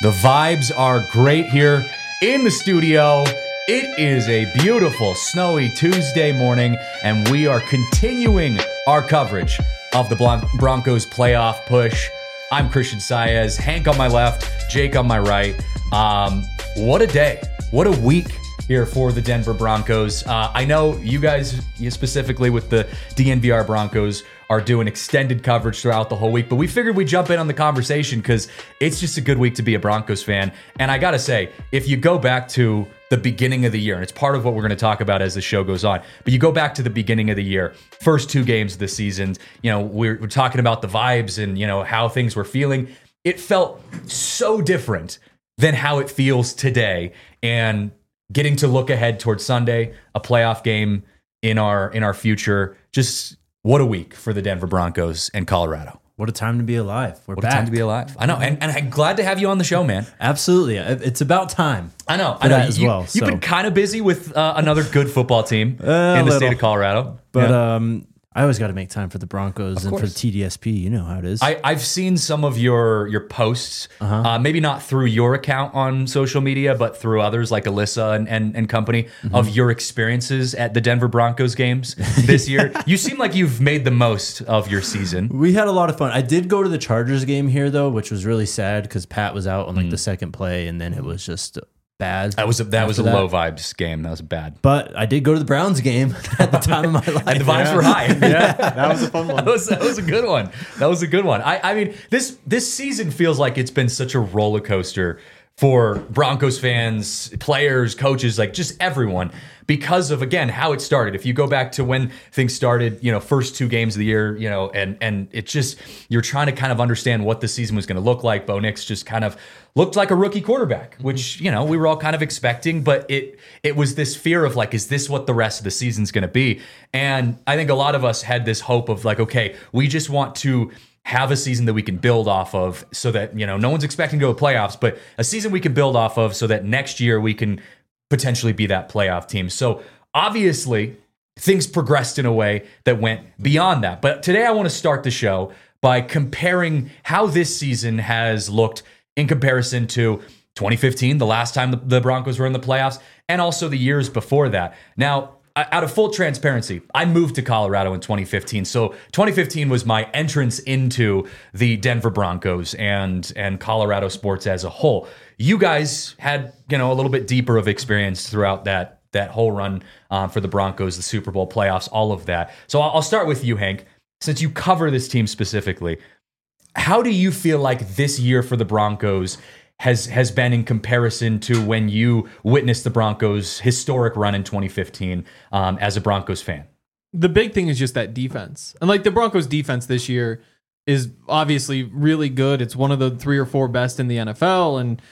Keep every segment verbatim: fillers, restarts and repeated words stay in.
The vibes are great here in the studio. It is a beautiful, snowy Tuesday morning, and we are continuing our coverage of the Bron- Broncos playoff push. I'm Christian Saez, Hank on my left, Jake on my right. Um, what a day. What a week here for the Denver Broncos. Uh, I know you guys, you specifically with the D N V R Broncos, are doing extended coverage throughout the whole week, but we figured we'd jump in on the conversation because it's just a good week to be a Broncos fan. And I gotta say, if you go back to the beginning of the year, and it's part of what we're gonna talk about as the show goes on, but you go back to the beginning of the year, first two games of the season, you know, we're, we're talking about the vibes and, you know, how things were feeling. It felt so different than how it feels today. And getting to look ahead towards Sunday, a playoff game in our in our future, just what a week for the Denver Broncos and Colorado. What a time to be alive. We're what back. a time to be alive. I know, and, and I'm glad to have you on the show, man. Absolutely. It's about time. I know. I know. That as you, well, You've so. been kind of busy with uh, another good football team Uh, in the little. state of Colorado. But Yeah. um, I always got to make time for the Broncos and for the course. T D S P. You know how it is. I, I've seen some of your your posts, Uh-huh. uh, maybe not through your account on social media, but through others like Alyssa and, and, and company, Mm-hmm. of your experiences at the Denver Broncos games this year. You seem like you've made the most of your season. we had a lot of fun. I did go to the Chargers game here, though, which was really sad because Pat was out on like the second play, and then it was just bad. That was a, that was a after that. low vibes game. That was bad. But I did go to the Browns game at the time of my life. And the vibes were high. Yeah, that was a fun one. That was, that was a good one. That was a good one. I, I mean, this this season feels like it's been such a roller coaster for Broncos fans, players, coaches, like just everyone, because of, again, how it started. If you go back to when things started, you know, first two games of the year, you know, and and it just, you're trying to kind of understand what the season was going to look like. Bo Nix just kind of looked like a rookie quarterback, which, you know, we were all kind of expecting, but it it was this fear of like, is this what the rest of the season's going to be? And I think a lot of us had this hope of like, okay, we just want to have a season that we can build off of so that, you know, no one's expecting to go to playoffs, but a season we can build off of so that next year we can potentially be that playoff team. So obviously things progressed in a way that went beyond that. But today I want to start the show by comparing how this season has looked in comparison to twenty fifteen, the last time the, the Broncos were in the playoffs, and also the years before that. Now, out of full transparency, I moved to Colorado in twenty fifteen. So twenty fifteen was my entrance into the Denver Broncos and and Colorado sports as a whole. You guys had, you know, a little bit deeper of experience throughout that that whole run uh, for the Broncos, the Super Bowl playoffs, all of that. So I'll, I'll start with you, Hank. Since you cover this team specifically, how do you feel like this year for the Broncos has has been in comparison to when you witnessed the Broncos' historic run in twenty fifteen um, as a Broncos fan? The big thing is just that defense. And like the Broncos defense this year is obviously really good. It's one of the three or four best in the N F L, and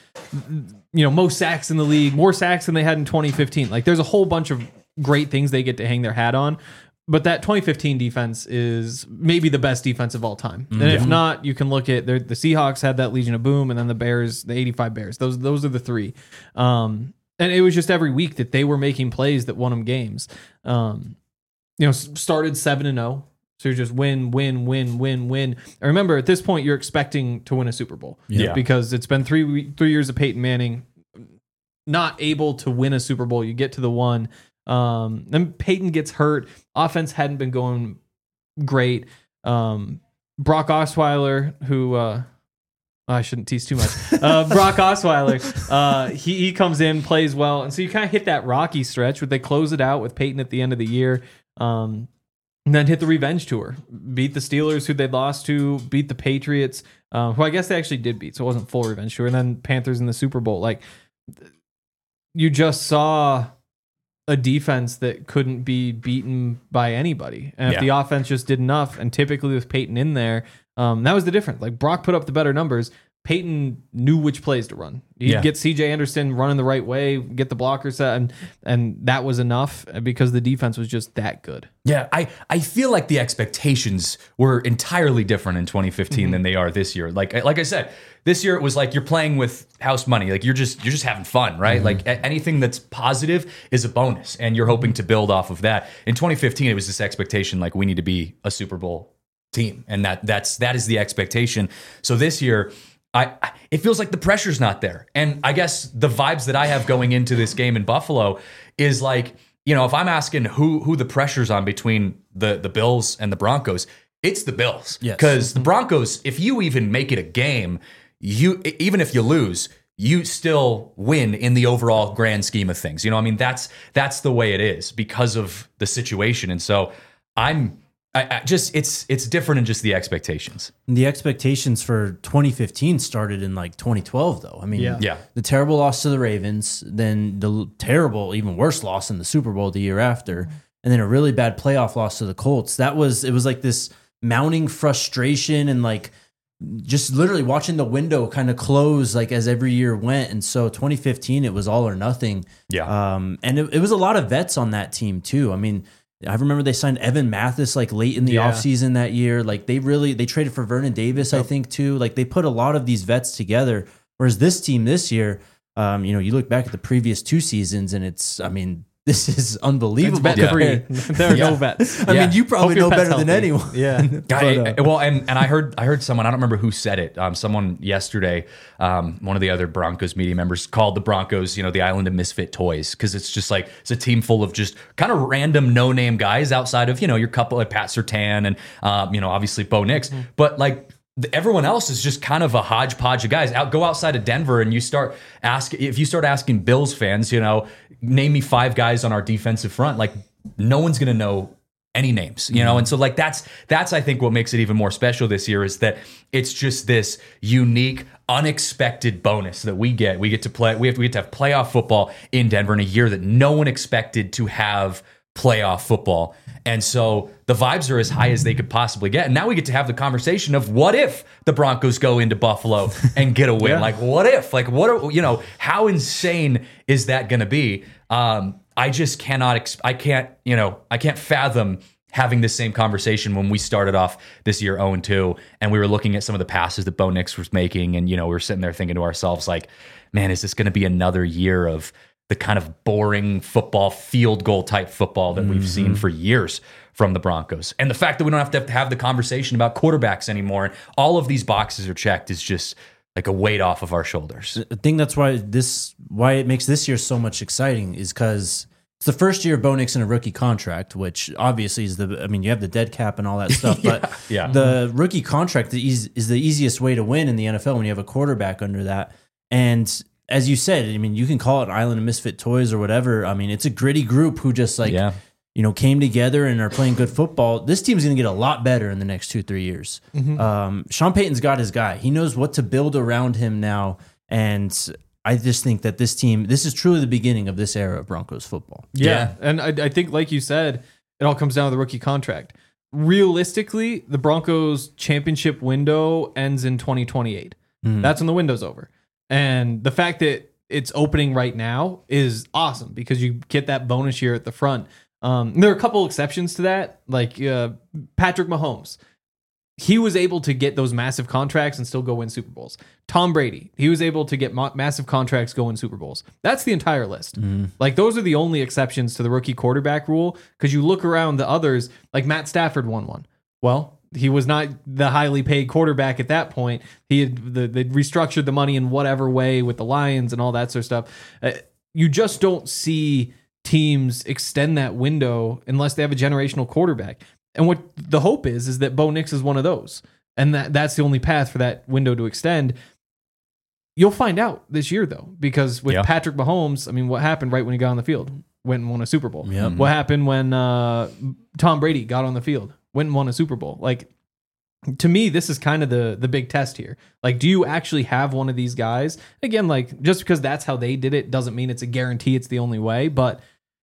you know, most sacks in the league, more sacks than they had in twenty fifteen. Like there's a whole bunch of great things they get to hang their hat on. But that twenty fifteen defense is maybe the best defense of all time. And if not, you can look at the Seahawks had that Legion of Boom, and then the Bears, the eighty-five Bears. Those those are the three. Um, and it was just every week that they were making plays that won them games. Um, you know, started seven and zero. So you're just win, win, win, win, win. And remember, at this point, you're expecting to win a Super Bowl. Yeah. Because it's been three three years of Peyton Manning not able to win a Super Bowl. You get to the one. Um, then Peyton gets hurt. Offense hadn't been going great. Um, Brock Osweiler, who uh, I shouldn't tease too much. Uh, Brock Osweiler, uh, he he comes in, plays well, and so you kind of hit that rocky stretch where they close it out with Peyton at the end of the year, um, and then hit the revenge tour, beat the Steelers, who they'd lost to, beat the Patriots, uh, who I guess they actually did beat, so it wasn't full revenge tour, and then Panthers in the Super Bowl. Like you just saw a defense that couldn't be beaten by anybody. And if Yeah. the offense just did enough, and typically with Peyton in there, um, that was the difference. Like Brock put up the better numbers. Peyton knew which plays to run. He'd Yeah. get C J Anderson running the right way, get the blocker set, and and that was enough because the defense was just that good. Yeah, I, I feel like the expectations were entirely different in twenty fifteen Mm-hmm. than they are this year. Like like I said, this year it was like you're playing with house money. Like you're just you're just having fun, right? Mm-hmm. Like a- anything that's positive is a bonus, and you're hoping to build off of that. In twenty fifteen, it was this expectation like we need to be a Super Bowl team, and that that's that is the expectation. So this year, I, I it feels like the pressure's not there. And I guess the vibes that I have going into this game in Buffalo is like, you know, if I'm asking who who the pressure's on between the the Bills and the Broncos, it's the Bills. Yes. Because the Broncos, if you even make it a game, you even if you lose, you still win in the overall grand scheme of things. You know, I mean, that's that's the way it is because of the situation. And so I'm I, I just it's it's different in just the expectations. The expectations for twenty fifteen started in like twenty twelve, though. I mean, Yeah. Yeah. the terrible loss to the Ravens, then the terrible, even worse loss in the Super Bowl the year after, and then a really bad playoff loss to the Colts. That was, it was like this mounting frustration and like just literally watching the window kind of close like as every year went. And so twenty fifteen, it was all or nothing. Yeah. Um, and it, it was a lot of vets on that team too. I mean, I remember they signed Evan Mathis like late in the Yeah. offseason that year. Like they really, they traded for Vernon Davis, I think too. Like they put a lot of these vets together. Whereas this team this year, um, you know, you look back at the previous two seasons and it's, I mean, this is unbelievable. It's vet Yeah. free. There are Yeah. no vets. I Yeah. mean, you probably Hope your know pet's better than healthy. anyone. Yeah. But, I- uh, I- well, and and I heard I heard someone, I don't remember who said it. Um, someone yesterday, um, one of the other Broncos media members called the Broncos, you know, the island of misfit toys, because it's just like it's a team full of just kind of random no name guys outside of, you know, your couple of Pat Surtain and um, you know, obviously Bo Nix, Mm-hmm. but like. the- Everyone else is just kind of a hodgepodge of guys. Out, go outside of Denver, and you start ask if you start asking Bills fans, you know, name me five guys on our defensive front. Like no one's going to know any names, you know? And so like, that's, that's, I think what makes it even more special this year is that it's just this unique, unexpected bonus that we get. We get to play, we have, we get to have playoff football in Denver in a year that no one expected to have playoff football. And so the vibes are as high as they could possibly get. And now we get to have the conversation of what if the Broncos go into Buffalo and get a win? Yeah. Like, what if? Like, what are, you know, how insane is that going to be? Um, I just cannot, ex- I can't, you know, I can't fathom having this same conversation when we started off this year oh and two and we were looking at some of the passes that Bo Nix was making. And, you know, we were sitting there thinking to ourselves, like, man, is this going to be another year of the kind of boring football, field goal type football that we've seen for years from the Broncos? And the fact that we don't have to have, to have the conversation about quarterbacks anymore and all of these boxes are checked is just like a weight off of our shoulders. I think that's why this why it makes this year so much exciting is because it's the first year of Bo Nix in a rookie contract, which obviously is the I mean you have the dead cap and all that stuff, but yeah. the rookie contract is, is the easiest way to win in the N F L when you have a quarterback under that. And as you said, I mean you can call it an island of misfit toys or whatever. I mean it's a gritty group who just like Yeah. you know, came together and are playing good football. This team's going to get a lot better in the next two, three years. Um, Sean Payton's got his guy. He knows what to build around him now. And I just think that this team, this is truly the beginning of this era of Broncos football. Yeah. Yeah. And I, I think, like you said, it all comes down to the rookie contract. Realistically, the Broncos championship window ends in twenty twenty-eight. That's when the window's over. And the fact that it's opening right now is awesome because you get that bonus year at the front. Um, there are a couple exceptions to that, like uh, Patrick Mahomes. He was able to get those massive contracts and still go win Super Bowls. Tom Brady, he was able to get ma- massive contracts, go win Super Bowls. That's the entire list. Like those are the only exceptions to the rookie quarterback rule because you look around the others, like Matt Stafford won one. Well, he was not the highly paid quarterback at that point. He had the, they restructured the money in whatever way with the Lions and all that sort of stuff. Uh, you just don't see teams extend that window unless they have a generational quarterback. And what the hope is, is that Bo Nix is one of those. And that that's the only path for that window to extend. You'll find out this year, though, because with Yeah. Patrick Mahomes, I mean, what happened right when he got on the field? Went and won a Super Bowl. Yep. What happened when uh, Tom Brady got on the field? Went and won a Super Bowl. Like, to me, this is kind of the the big test here. Like, do you actually have one of these guys? Again, like, just because that's how they did it doesn't mean it's a guarantee it's the only way, but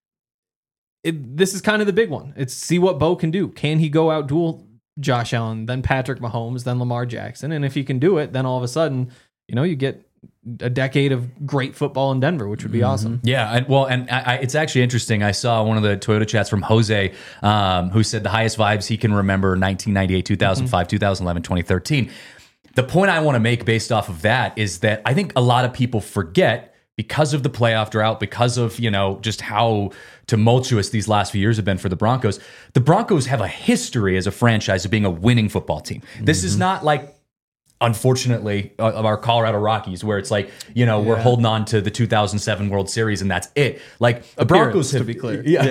it, this is kind of the big one. It's see what Bo can do. Can he go out duel Josh Allen, then Patrick Mahomes, then Lamar Jackson? And if he can do it, then all of a sudden, you know, you get a decade of great football in Denver, which would be awesome. Yeah, and, well, and I, I, it's actually interesting. I saw one of the Toyota chats from Jose, um, who said the highest vibes he can remember: nineteen ninety-eight, two thousand five, two thousand eleven, twenty thirteen. The point I want to make based off of that is that I think a lot of people forget because of the playoff drought, because of, you know, just how tumultuous these last few years have been for the Broncos. The Broncos have a history as a franchise of being a winning football team. This is not like unfortunately, uh, of our Colorado Rockies, where it's like, you know, we're Yeah. holding on to the two thousand seven World Series and that's it. Like the Broncos have, to be clear. yeah,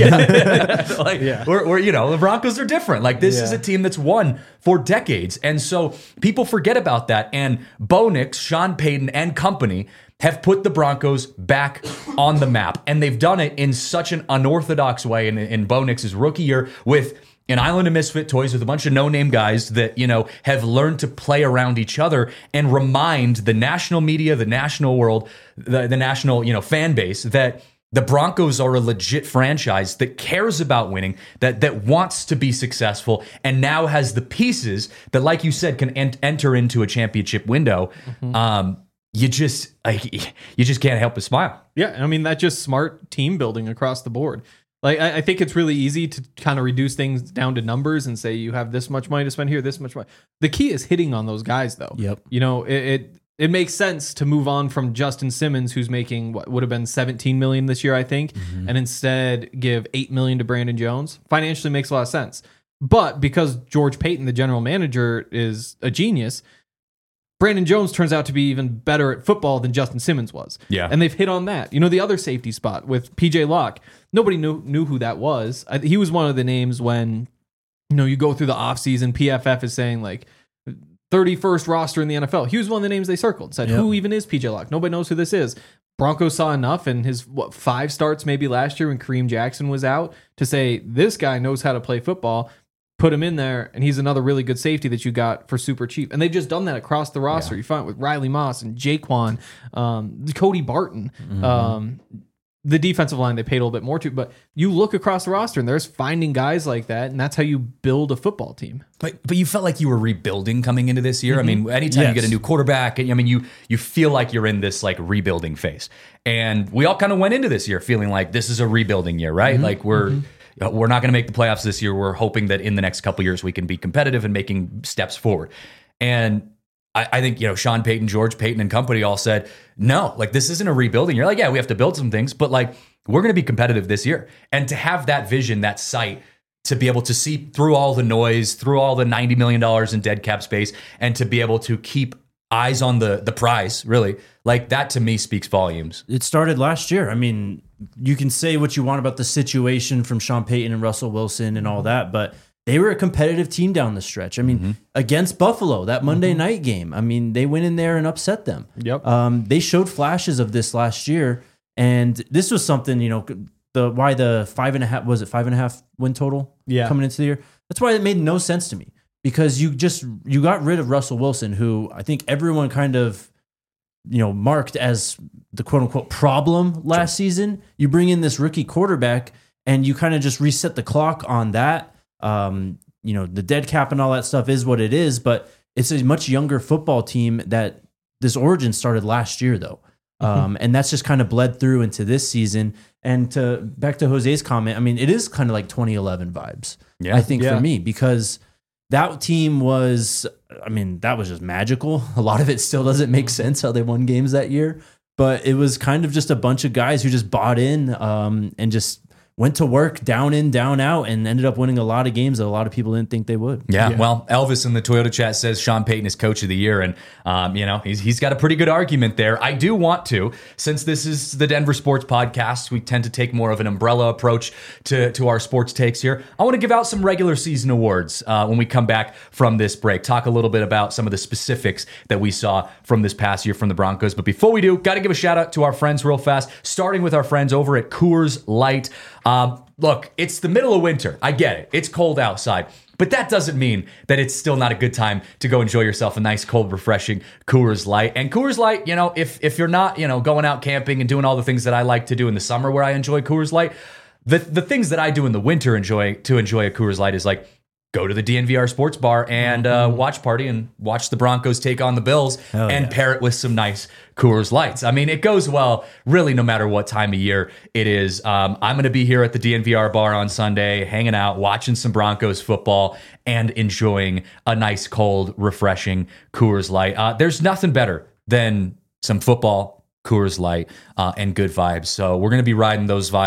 yeah, yeah. like Yeah. We're, we're, you know, the Broncos are different. Like this is Yeah. a team that's won for decades, and so people forget about that. And Bo Nix, Sean Payton, and company have put the Broncos back on the map, and they've done it in such an unorthodox way. In, in Bo Nix's rookie year with an island of misfit toys with a bunch of no-name guys that, you know, have learned to play around each other and remind the national media, the national world, the, the national, you know, fan base that the Broncos are a legit franchise that cares about winning, that that wants to be successful, and now has the pieces that, like you said, can en- enter into a championship window. Mm-hmm. Um, you just like, you just can't help but smile. Yeah, I mean, that's just smart team building across the board. Like, I, I think it's really easy to kind of reduce things down to numbers and say you have this much money to spend here, this much money. The key is hitting on those guys, though. Yep. You know, it it, it makes sense to move on from Justin Simmons, who's making what would have been seventeen million dollars this year, I think, Mm-hmm. and instead give eight million dollars to Brandon Jones. Financially makes a lot of sense. But because George Payton, the general manager, is a genius, Brandon Jones turns out to be even better at football than Justin Simmons was. Yeah. And they've hit on that. You know, the other safety spot with P J Locke, nobody knew knew who that was. I, he was one of the names when, you know, you go through the offseason, P F F is saying like thirty-first roster in the N F L. He was one of the names they circled. Said, Yep. who even is P J Locke? Nobody knows who this is. Broncos saw enough in his, what, five starts maybe last year when Kareem Jackson was out to say, this guy knows how to play football. Put him in there, and he's another really good safety that you got for super cheap. And they've just done that across the roster. Yeah. You find it with Riley Moss and Jaquan, um, Cody Barton. Mm-hmm. Um, the defensive line they paid a little bit more to, but you look across the roster, and there's finding guys like that, and that's how you build a football team. But but you felt like you were rebuilding coming into this year. I mean, anytime you Yes. get a new quarterback, I mean, you you feel like you're in this like rebuilding phase. And we all kind of went into this year feeling like this is a rebuilding year, right? Like we're we're not going to make the playoffs this year. We're hoping that in the next couple years we can be competitive and making steps forward. And I, I think, you know, Sean Payton, George Payton, and company all said, no, like this isn't a rebuilding. You're like, yeah, we have to build some things, but like we're going to be competitive this year. And to have that vision, that sight, to be able to see through all the noise, through all the ninety million dollars in dead cap space, and to be able to keep eyes on the the prize, really, like that to me speaks volumes. It started last year. I mean, you can say what you want about the situation from Sean Payton and Russell Wilson and all that, but they were a competitive team down the stretch. I mean, Mm-hmm. against Buffalo, that Monday night game, I mean, they went in there and upset them. Yep. Um, they showed flashes of this last year, and this was something, you know, the why the five and a half was it five and a half win total Yeah. coming into the year. That's why it made no sense to me, because you just you got rid of Russell Wilson, who I think everyone kind of, you know, marked as the quote unquote problem last season. You bring in this rookie quarterback and you kind of just reset the clock on that. Um, you know, the dead cap and all that stuff is what it is, but it's a much younger football team that this origin started last year though. Um, and that's just kind of bled through into this season. And to back to Jose's comment, I mean, it is kind of like twenty eleven vibes, Yeah. I think Yeah. for me, because that team was, I mean, that was just magical. A lot of it still doesn't make sense how they won games that year, but it was kind of just a bunch of guys who just bought in um, and just went to work down in, down out, and ended up winning a lot of games that a lot of people didn't think they would. Yeah, Yeah. well, Elvis in the Toyota chat says Sean Payton is coach of the year, and um, you know he's he's got a pretty good argument there. I do want to, since this is the Denver Sports Podcast, we tend to take more of an umbrella approach to to our sports takes here. I want to give out some regular season awards uh, when we come back from this break. Talk a little bit about some of the specifics that we saw from this past year from the Broncos. But before we do, got to give a shout out to our friends real fast. Starting with our friends over at Coors Light. Um, look, it's the middle of winter. I get it. It's cold outside. But that doesn't mean that it's still not a good time to go enjoy yourself a nice, cold, refreshing Coors Light. And Coors Light, you know, if if you're not, you know, going out camping and doing all the things that I like to do in the summer where I enjoy Coors Light, the the things that I do in the winter enjoy to enjoy a Coors Light is like go to the D N V R Sports Bar and uh, watch party and watch the Broncos take on the Bills Hell and yeah. pair it with some nice Coors Lights. I mean, it goes well really no matter what time of year it is. Um, I'm going to be here at the D N V R bar on Sunday, hanging out, watching some Broncos football, and enjoying a nice, cold, refreshing Coors Light. Uh, there's nothing better than some football, Coors Light, uh, and good vibes. So we're going to be riding those vibes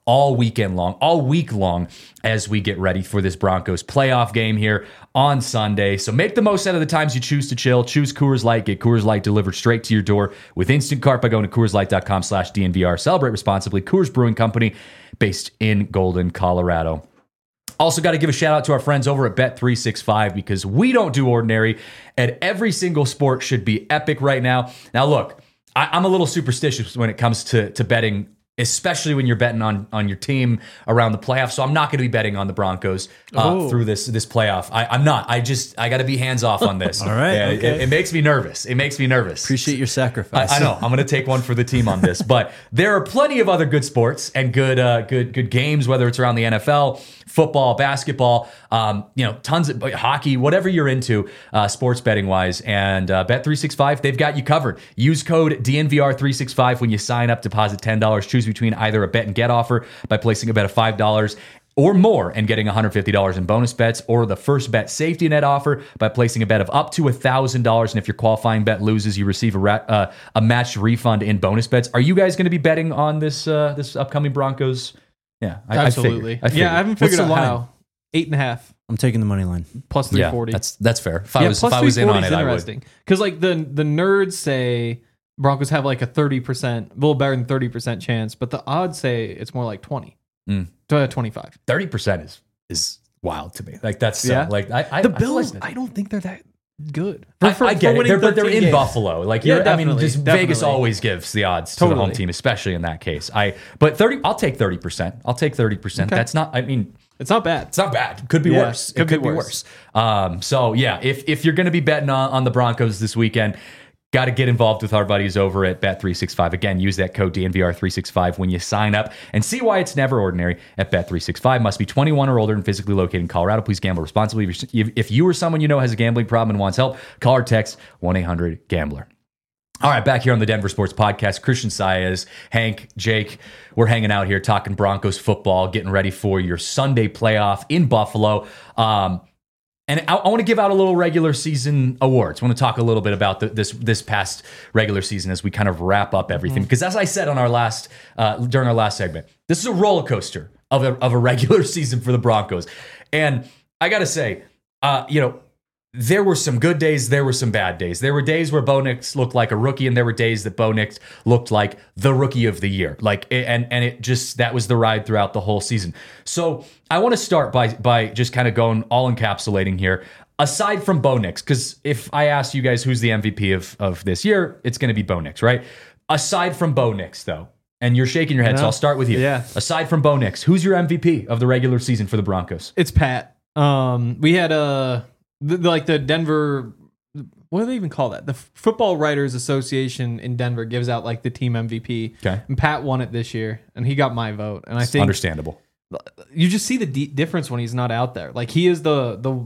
all weekend long, all week long, as we get ready for this Broncos playoff game here on Sunday. So make the most out of the times you choose to chill. Choose Coors Light. Get Coors Light delivered straight to your door with Instant Cart by going to CoorsLight.com slash DNVR. Celebrate responsibly. Coors Brewing Company, based in Golden, Colorado. Also got to give a shout out to our friends over at Bet three sixty-five because we don't do ordinary, and every single sport should be epic right now. Now, look, I, I'm a little superstitious when it comes to, to betting, especially when you're betting on, on your team around the playoffs. So I'm not going to be betting on the Broncos uh, Oh. through this this playoff. I, I'm not. I just I got to be hands off on this. All right, Yeah, okay. it, it makes me nervous. It makes me nervous. Appreciate your I, sacrifice. I know. I'm going to take one for the team on this, but there are plenty of other good sports and good, uh, good, good games. Whether it's around the N F L, football, basketball, um, you know, tons of hockey, whatever you're into, uh, sports betting wise. And uh, Bet three sixty-five, they've got you covered. Use code D N V R three sixty-five when you sign up. Deposit ten dollars. Choose between either a bet and get offer by placing a bet of five dollars. Or more and getting one hundred fifty dollars in bonus bets, or the first bet safety net offer by placing a bet of up to one thousand dollars. And if your qualifying bet loses, you receive a rat, uh, a matched refund in bonus bets. Are you guys going to be betting on this uh, this upcoming Broncos? Yeah, I, Absolutely. I figured, I figured. yeah, I haven't What's figured the out line? how. Eight and a half I'm taking the money line. plus three Yeah, forty. that's that's fair. If I yeah, was plus if I was in on three forty it, is I would. interesting because like the the nerds say Broncos have like a thirty percent, a little better than thirty percent chance, but the odds say it's more like twenty, Mm. to twenty-five. Thirty percent is is wild to me. Like that's so, Yeah. like I, I The I feel Bills, like I don't think they're that good. I, For- I for get it, winning they're, but they're thirteen in games. Buffalo. Like Yeah, you're, I mean, definitely, just Vegas definitely. always gives the odds to the home Totally. team, especially in that case. I but thirty, I'll take thirty percent. I'll take thirty percent. Okay. That's not. I mean, It's not bad. it's not bad. Could be Yeah, worse. could it could be be worse. worse. Um, so yeah, if if you're going to be betting on, on the Broncos this weekend, got to get involved with our buddies over at Bet three sixty-five. Again, use that code D N V R three sixty-five when you sign up and see why it's never ordinary at Bet three sixty-five. Must be twenty-one or older and physically located in Colorado. Please gamble responsibly. If you're- If you or someone you know has a gambling problem and wants help, call or text one eight hundred gambler. All right, back here on the Denver Sports Podcast, Christian Saez, Hank, Jake, we're hanging out here talking Broncos football, getting ready for your Sunday playoff in Buffalo. Um, and I, I want to give out a little regular season awards. I want to talk a little bit about the, this this past regular season as we kind of wrap up everything. Because as I said on our last uh, during our last segment, this is a roller coaster of a, of a regular season for the Broncos. And I got to say, uh, you know, there were some good days. There were some bad days. There were days where Bo Nix looked like a rookie, and there were days that Bo Nix looked like the rookie of the year. Like, and and it just that was the ride throughout the whole season. So I want to start by by just kind of going all encapsulating here. Aside from Bo Nix, because if I ask you guys who's the M V P of of this year, it's going to be Bo Nix, right? Aside from Bo Nix, though, and you're shaking your head, so Yeah. I'll start with you. Yeah. Aside from Bo Nix, who's your M V P of the regular season for the Broncos? It's Pat. Um, we had a the, the- like the Denver. What do they even call that? The Football Writers Association in Denver gives out like the team M V P. Okay. And Pat won it this year, and he got my vote. And I think Understandable. you just see the d- difference when he's not out there. Like he is the the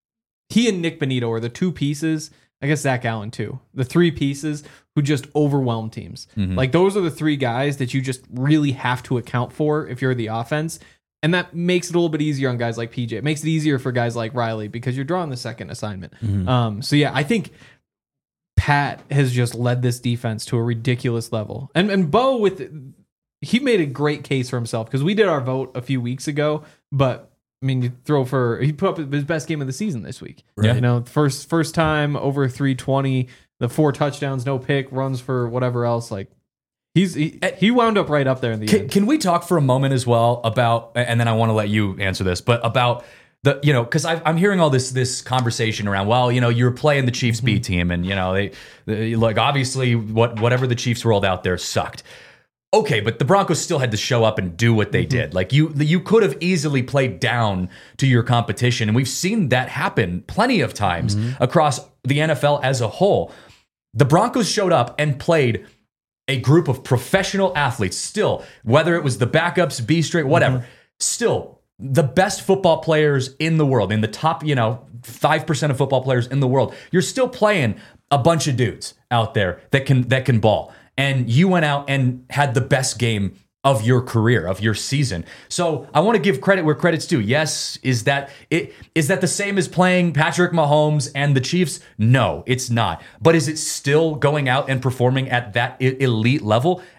he and Nick Benito are the two pieces. I guess Zach Allen too. The three pieces who just overwhelm teams. Like those are the three guys that you just really have to account for if you're the offense. And that makes it a little bit easier on guys like P J. It makes it easier for guys like Riley because you're drawing the second assignment. Um, so yeah, I think Pat has just led this defense to a ridiculous level. And and Bo with he made a great case for himself because we did our vote a few weeks ago, but I mean, you throw for he put up his best game of the season this week. Yeah. You know, first first time over three twenty, the four touchdowns, no pick, runs for whatever else. Like he's he, he wound up right up there in the Can, end. can we talk for a moment as well about, and then I want to let you answer this, but about the, you know, because I'm hearing all this this conversation around, well, you know, you're playing the Chiefs B team, and you know they, they like obviously what whatever the Chiefs rolled out there sucked. Okay, but the Broncos still had to show up and do what they Mm-hmm. did. Like you, you could have easily played down to your competition, and we've seen that happen plenty of times Mm-hmm. across the N F L as a whole. The Broncos showed up and played a group of professional athletes. Still, whether it was the backups, B straight, whatever, Mm-hmm. still the best football players in the world, in the top, you know, five percent of football players in the world. You're still playing a bunch of dudes out there that can that can ball. And you went out and had the best game of your career, of your season. So I want to give credit where credit's due. Yes, is that it? Is that the same as playing Patrick Mahomes and the Chiefs? No, it's not. But is it still going out and performing at that e- elite level?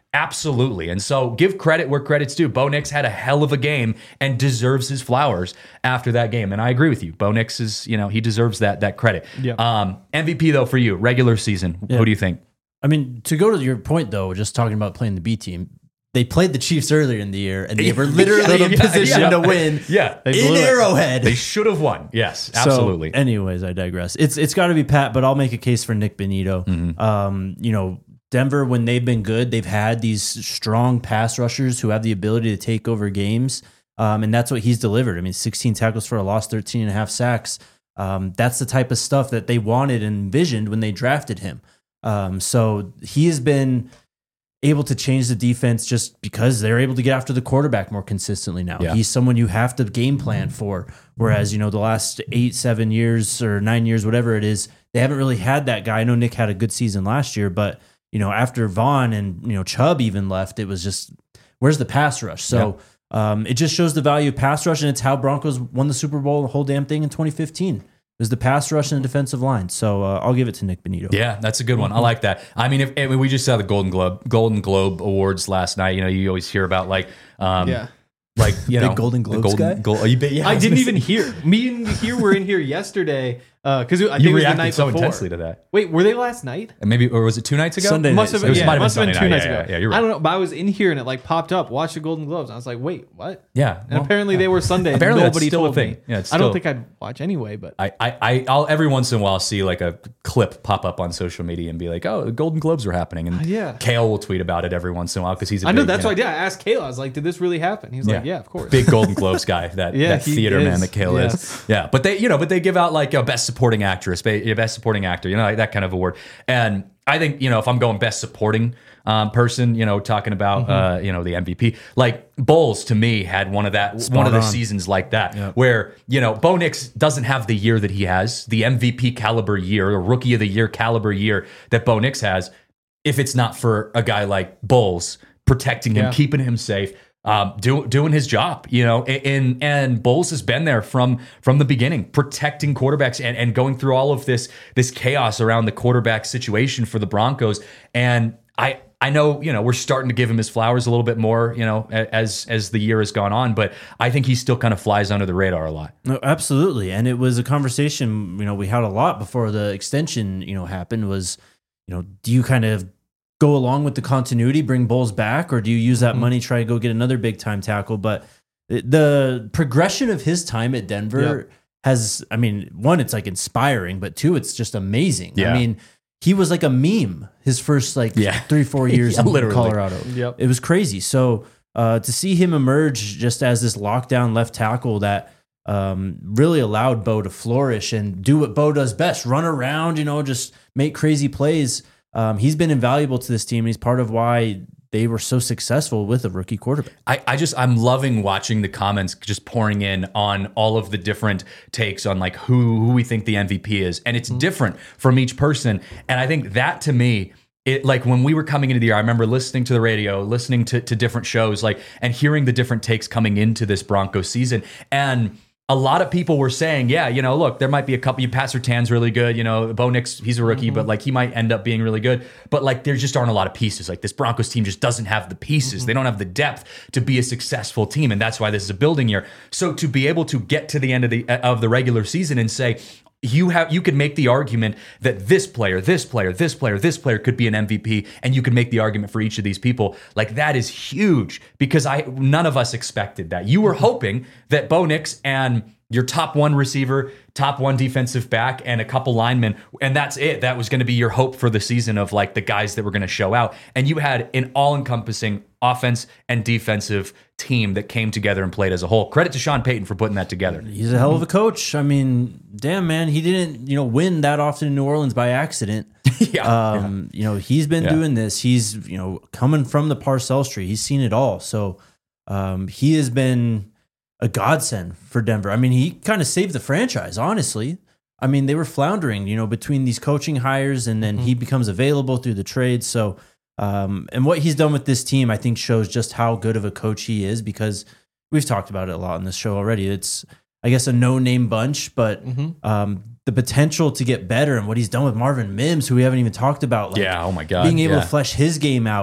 Absolutely. And so give credit where credit's due. Bo Nix had a hell of a game and deserves his flowers after that game. And I agree with you. Bo Nix is, you know, he deserves that that credit. Yep. Um, M V P, though, for you, regular season. Yeah. Who do you think? I mean, to go to your point, though, just talking about playing the B team, they played the Chiefs earlier in the year, and they were literally in Yeah, position yeah. to win Yeah. They in blew it. Arrowhead. They should have won. Yes, absolutely. So, anyways, I digress. It's It's got to be Pat, but I'll make a case for Nick Benito. Mm-hmm. Um, you know, Denver, when they've been good, they've had these strong pass rushers who have the ability to take over games, um, and that's what he's delivered. I mean, sixteen tackles for a loss, thirteen and a half sacks. Um, that's the type of stuff that they wanted and envisioned when they drafted him. Um, so he has been able to change the defense just because they're able to get after the quarterback more consistently now. Yeah. He's someone you have to game plan for. Whereas, you know, the last eight, seven years or nine years, whatever it is, they haven't really had that guy. I know Nick had a good season last year, but, you know, after Vaughn and, you know, Chubb even left, it was just, where's the pass rush? So um, it just shows the value of pass rush, and it's how Broncos won the Super Bowl, the whole damn thing in twenty fifteen. It was the pass rush and the defensive line. So uh, I'll give it to Nick Benito. Yeah, that's a good one. I like that. I mean, if I mean, we just saw the Golden Globe Golden Globe Awards last night. You know, you always hear about like, um, Yeah. like you Big know, Golden the Globes Golden, guy? Glo- you bet- yeah, I was didn't gonna even say- hear. Me and here were in here yesterday because I think You it was the reacted night so before. intensely to that. Wait, were they last night? And maybe, or was it two nights ago? Sunday Must have It been, was- yeah, might have must have been been two Sunday nights night. Yeah, ago. yeah, yeah, you're right. I don't know, but I was in here and it like popped up. Watch the Golden Globes. I was like, wait, what? Yeah, And well, apparently they were Sunday. and Apparently that's nobody still a told thing. me. Yeah, it's I don't still- think I'd watch anyway, but I, I, I, I'll every once in a while see like a clip pop up on social media and be like, oh, the Golden Globes are happening, and yeah. Kale will tweet about it every once in a while because he's. A I know big, that's you why I did. I asked Kayla. I was like, did this really happen? He was like, yeah, of course. Big Golden Globes guy, that, Yeah, that he theater is. man that Kale Yes. is. Yeah, but they, you know, but they give out like a best supporting actress, ba- best supporting actor, you know, like that kind of award. And I think, you know, if I'm going best supporting um, person, you know, talking about, Mm-hmm. uh, you know, the M V P, like Bowles to me had one of that, Spot one of the on. seasons like that, where, you know, Bo Nix doesn't have the year that he has, the M V P caliber year, or rookie of the year caliber year that Bo Nix has, if it's not for a guy like Bowles protecting him, Yeah. keeping him safe, um, do, doing his job, you know, and and Bowles has been there from from the beginning, protecting quarterbacks and, and going through all of this this chaos around the quarterback situation for the Broncos. And I I know, you know, we're starting to give him his flowers a little bit more, you know, a- as as the year has gone on, but I think he still kind of flies under the radar a lot. No, absolutely. And it was a conversation, you know, we had a lot before the extension, you know, happened was, you know, do you kind of go along with the continuity, bring Bowles back, or do you use that Mm-hmm. money, try to go get another big time tackle? But it- the progression of his time at Denver Yep. has, I mean, one, it's like inspiring, but two, it's just amazing. Yeah. I mean, he was like a meme his first like Yeah. three, four years Yeah, in literally. Colorado. Yep. It was crazy. So uh, to see him emerge just as this lockdown left tackle that um, really allowed Bo to flourish and do what Bo does best, run around, you know, just make crazy plays. Um, he's been invaluable to this team. He's part of why they were so successful with a rookie quarterback. I, I just I'm loving watching the comments just pouring in on all of the different takes on like who who we think the M V P is, and it's different from each person. And I think that to me, it like when we were coming into the year, I remember listening to the radio, listening to to different shows, like and hearing the different takes coming into this Broncos season. And a lot of people were saying, yeah, you know, look, there might be a couple. You Pat Surtain's really good. You know, Bo Nix, he's a rookie, but like he might end up being really good. But like there just aren't a lot of pieces. Like this Broncos team just doesn't have the pieces. They don't have the depth to be a successful team, and that's why this is a building year. So to be able to get to the end of the of the regular season and say, you have you could make the argument that this player, this player, this player, this player could be an M V P, and you could make the argument for each of these people. Like that is huge because I none of us expected that. You were hoping that Bo Nix and your top one receiver, top one defensive back, and a couple linemen, and that's it. That was going to be your hope for the season of like the guys that were going to show out. And you had an all-encompassing offense and defensive team that came together and played as a whole. Credit to Sean Payton for putting that together. He's a hell of a coach. I mean, damn man, he didn't, you know, win that often in New Orleans by accident. yeah, Um, you know, he's been Yeah. doing this. He's, you know, coming from the Parcells tree. He's seen it all. So um, he has been a godsend for Denver. I mean, he kind of saved the franchise, honestly. I mean, they were floundering, you know, between these coaching hires and then he becomes available through the trade. So, um, and what he's done with this team, I think shows just how good of a coach he is because we've talked about it a lot on this show already. It's, I guess, a no-name bunch, but um, the potential to get better and what he's done with Marvin Mims, who we haven't even talked about. Like, yeah. Oh my God. being able yeah. to flesh his game out.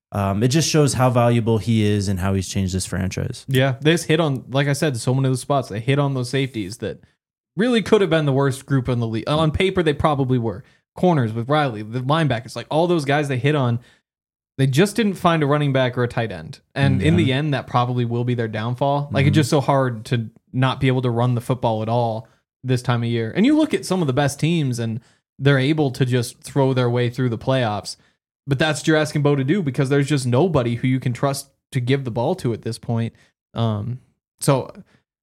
Um, it just shows how valuable he is and how he's changed this franchise. Yeah, they just hit on, like I said, so many of the spots. They hit on those safeties that really could have been the worst group in the league. On paper, they probably were. Corners with Riley, the linebackers, like all those guys they hit on, they just didn't find a running back or a tight end. And Yeah. in the end, that probably will be their downfall. Like, Mhm. it's just so hard to not be able to run the football at all this time of year. And you look at some of the best teams, and they're able to just throw their way through the playoffs. But that's what you're asking Bo to do, because there's just nobody who you can trust to give the ball to at this point. Um, so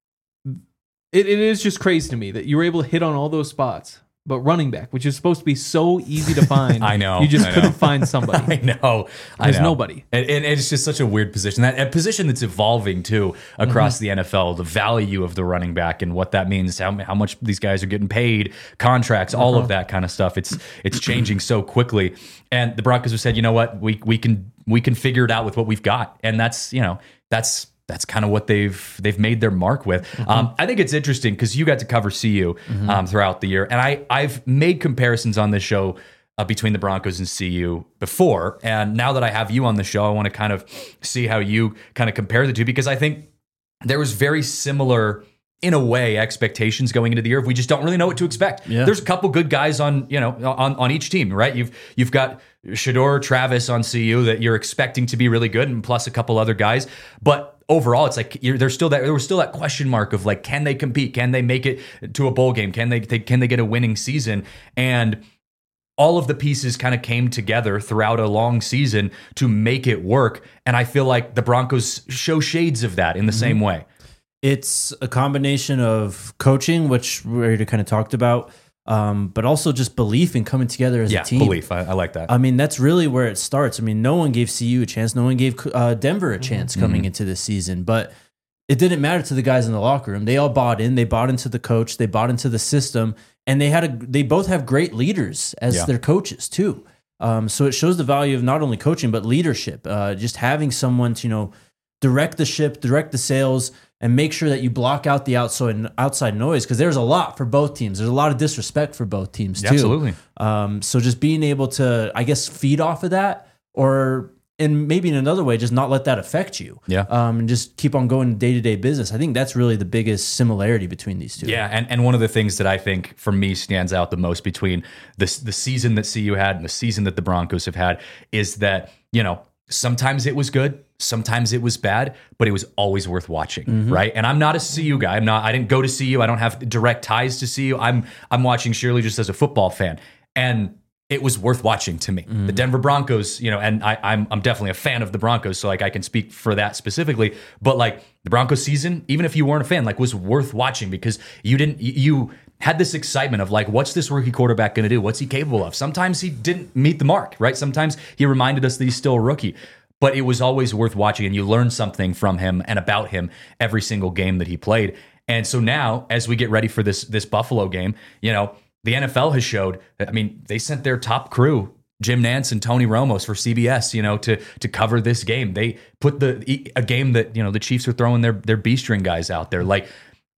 it, it is just crazy to me that you were able to hit on all those spots. But running back, which is supposed to be so easy to find, I know, you just I know. couldn't find somebody. I know. I There's know. nobody. And, and it's just such a weird position. That a position that's evolving too across Mm-hmm. the N F L. The value of the running back and what that means, how how much these guys are getting paid, contracts, all Uh-huh. of that kind of stuff. It's it's changing so quickly. And the Broncos have said, you know what, we we can we can figure it out with what we've got, and that's you know that's. That's kind of what they've they've made their mark with. Mm-hmm. Um, I think it's interesting because you got to cover C U um, throughout the year, and I I've made comparisons on this show uh, between the Broncos and C U before, and now that I have you on the show, I want to kind of see how you kind of compare the two, because I think there was very similar, in a way, expectations going into the year. If we just don't really know what to expect. Yeah. There's a couple good guys on you know on on each team, right? You've you've got Shedeur Travis on C U that you're expecting to be really good, and plus a couple other guys, but overall, it's like you're, there's still that there was still that question mark of like, can they compete? Can they make it to a bowl game? Can they, they can they get a winning season? And all of the pieces kind of came together throughout a long season to make it work. And I feel like the Broncos show shades of that in the same way. It's a combination of coaching, which we already kind of talked about, um, but also just belief in coming together as Yeah, a team. belief. I, I like that. I mean, that's really where it starts. I mean, no one gave C U a chance. No one gave uh, Denver a chance coming into this season, but it didn't matter to the guys in the locker room. They all bought in. They bought into the coach. They bought into the system, and they had a. They both have great leaders as Yeah. their coaches too. Um, so it shows the value of not only coaching but leadership. Uh, just having someone to you know direct the ship, direct the sails, and make sure that you block out the outside outside noise, because there's a lot for both teams. There's a lot of disrespect for both teams too. Absolutely. Um, so just being able to, I guess, feed off of that, or and maybe in another way, just not let that affect you. Yeah. Um, and just keep on going day to day business. I think that's really the biggest similarity between these two. Yeah, and, and one of the things that I think for me stands out the most between this the season that C U had and the season that the Broncos have had is that, you know, sometimes it was good, sometimes it was bad, but it was always worth watching, Mm-hmm. right? And I'm not a C U guy. I'm not. I didn't go to C U. I don't have direct ties to C U. I'm I'm watching Shirley just as a football fan, and it was worth watching to me. Mm-hmm. The Denver Broncos, you know, and I, I'm I'm definitely a fan of the Broncos, so like I can speak for that specifically. But like the Broncos season, even if you weren't a fan, like was worth watching because you didn't you had this excitement of like, what's this rookie quarterback going to do? What's he capable of? Sometimes he didn't meet the mark, right? Sometimes he reminded us that he's still a rookie. But it was always worth watching, and you learned something from him and about him every single game that he played. And so now, as we get ready for this this Buffalo game, you know, the N F L has showed. I mean, they sent their top crew, Jim Nantz and Tony Romo, for C B S, you know, to to cover this game. They put the a game that you know the Chiefs are throwing their their B string guys out there. Like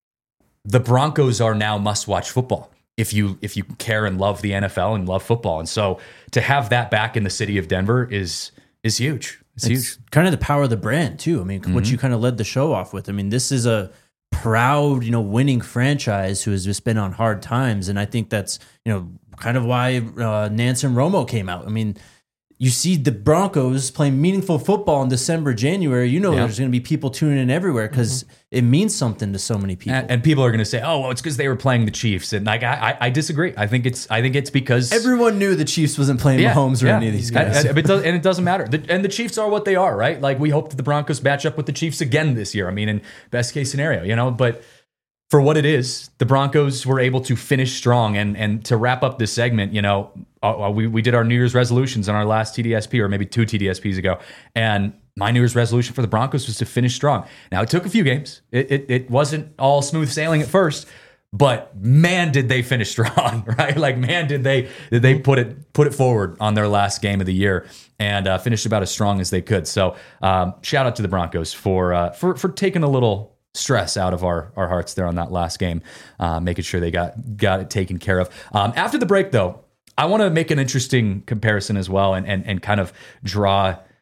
the Broncos are now must watch football if you if you care and love the N F L and love football. And so to have that back in the city of Denver is is huge. It's, It's huge. kind of the power of the brand too. I mean, what Mm-hmm. you kind of led the show off with. I mean, this is a proud, you know, winning franchise who has just been on hard times, and I think that's you know kind of why uh, Nance and Romo came out. I mean, you see the Broncos playing meaningful football in December, January. You know, Yeah. there's going to be people tuning in everywhere because it means something to so many people. And, and people are going to say, "Oh, well, it's because they were playing the Chiefs." And like, I, I, I disagree. I think it's, I think it's because Everyone knew the Chiefs wasn't playing Mahomes or any of these guys. And, and it does, and it doesn't matter. The, and the Chiefs are what they are, right? Like we hope that the Broncos match up with the Chiefs again this year. I mean, in best case scenario, you know. But for what it is, the Broncos were able to finish strong. And and to wrap up this segment, you know, uh, we we did our New Year's resolutions on our last T D S P, or maybe two T D S Ps ago, and my New Year's resolution for the Broncos was to finish strong. Now, it took a few games. It, it, it wasn't all smooth sailing at first, but man, did they finish strong, right? Like, man, did they did they put it put it forward on their last game of the year and uh, finished about as strong as they could. So, um, shout out to the Broncos for uh, for for taking a little stress out of our our hearts there on that last game, uh, making sure they got got it taken care of. Um, after the break, though, I want to make an interesting comparison as well, and and and kind of draw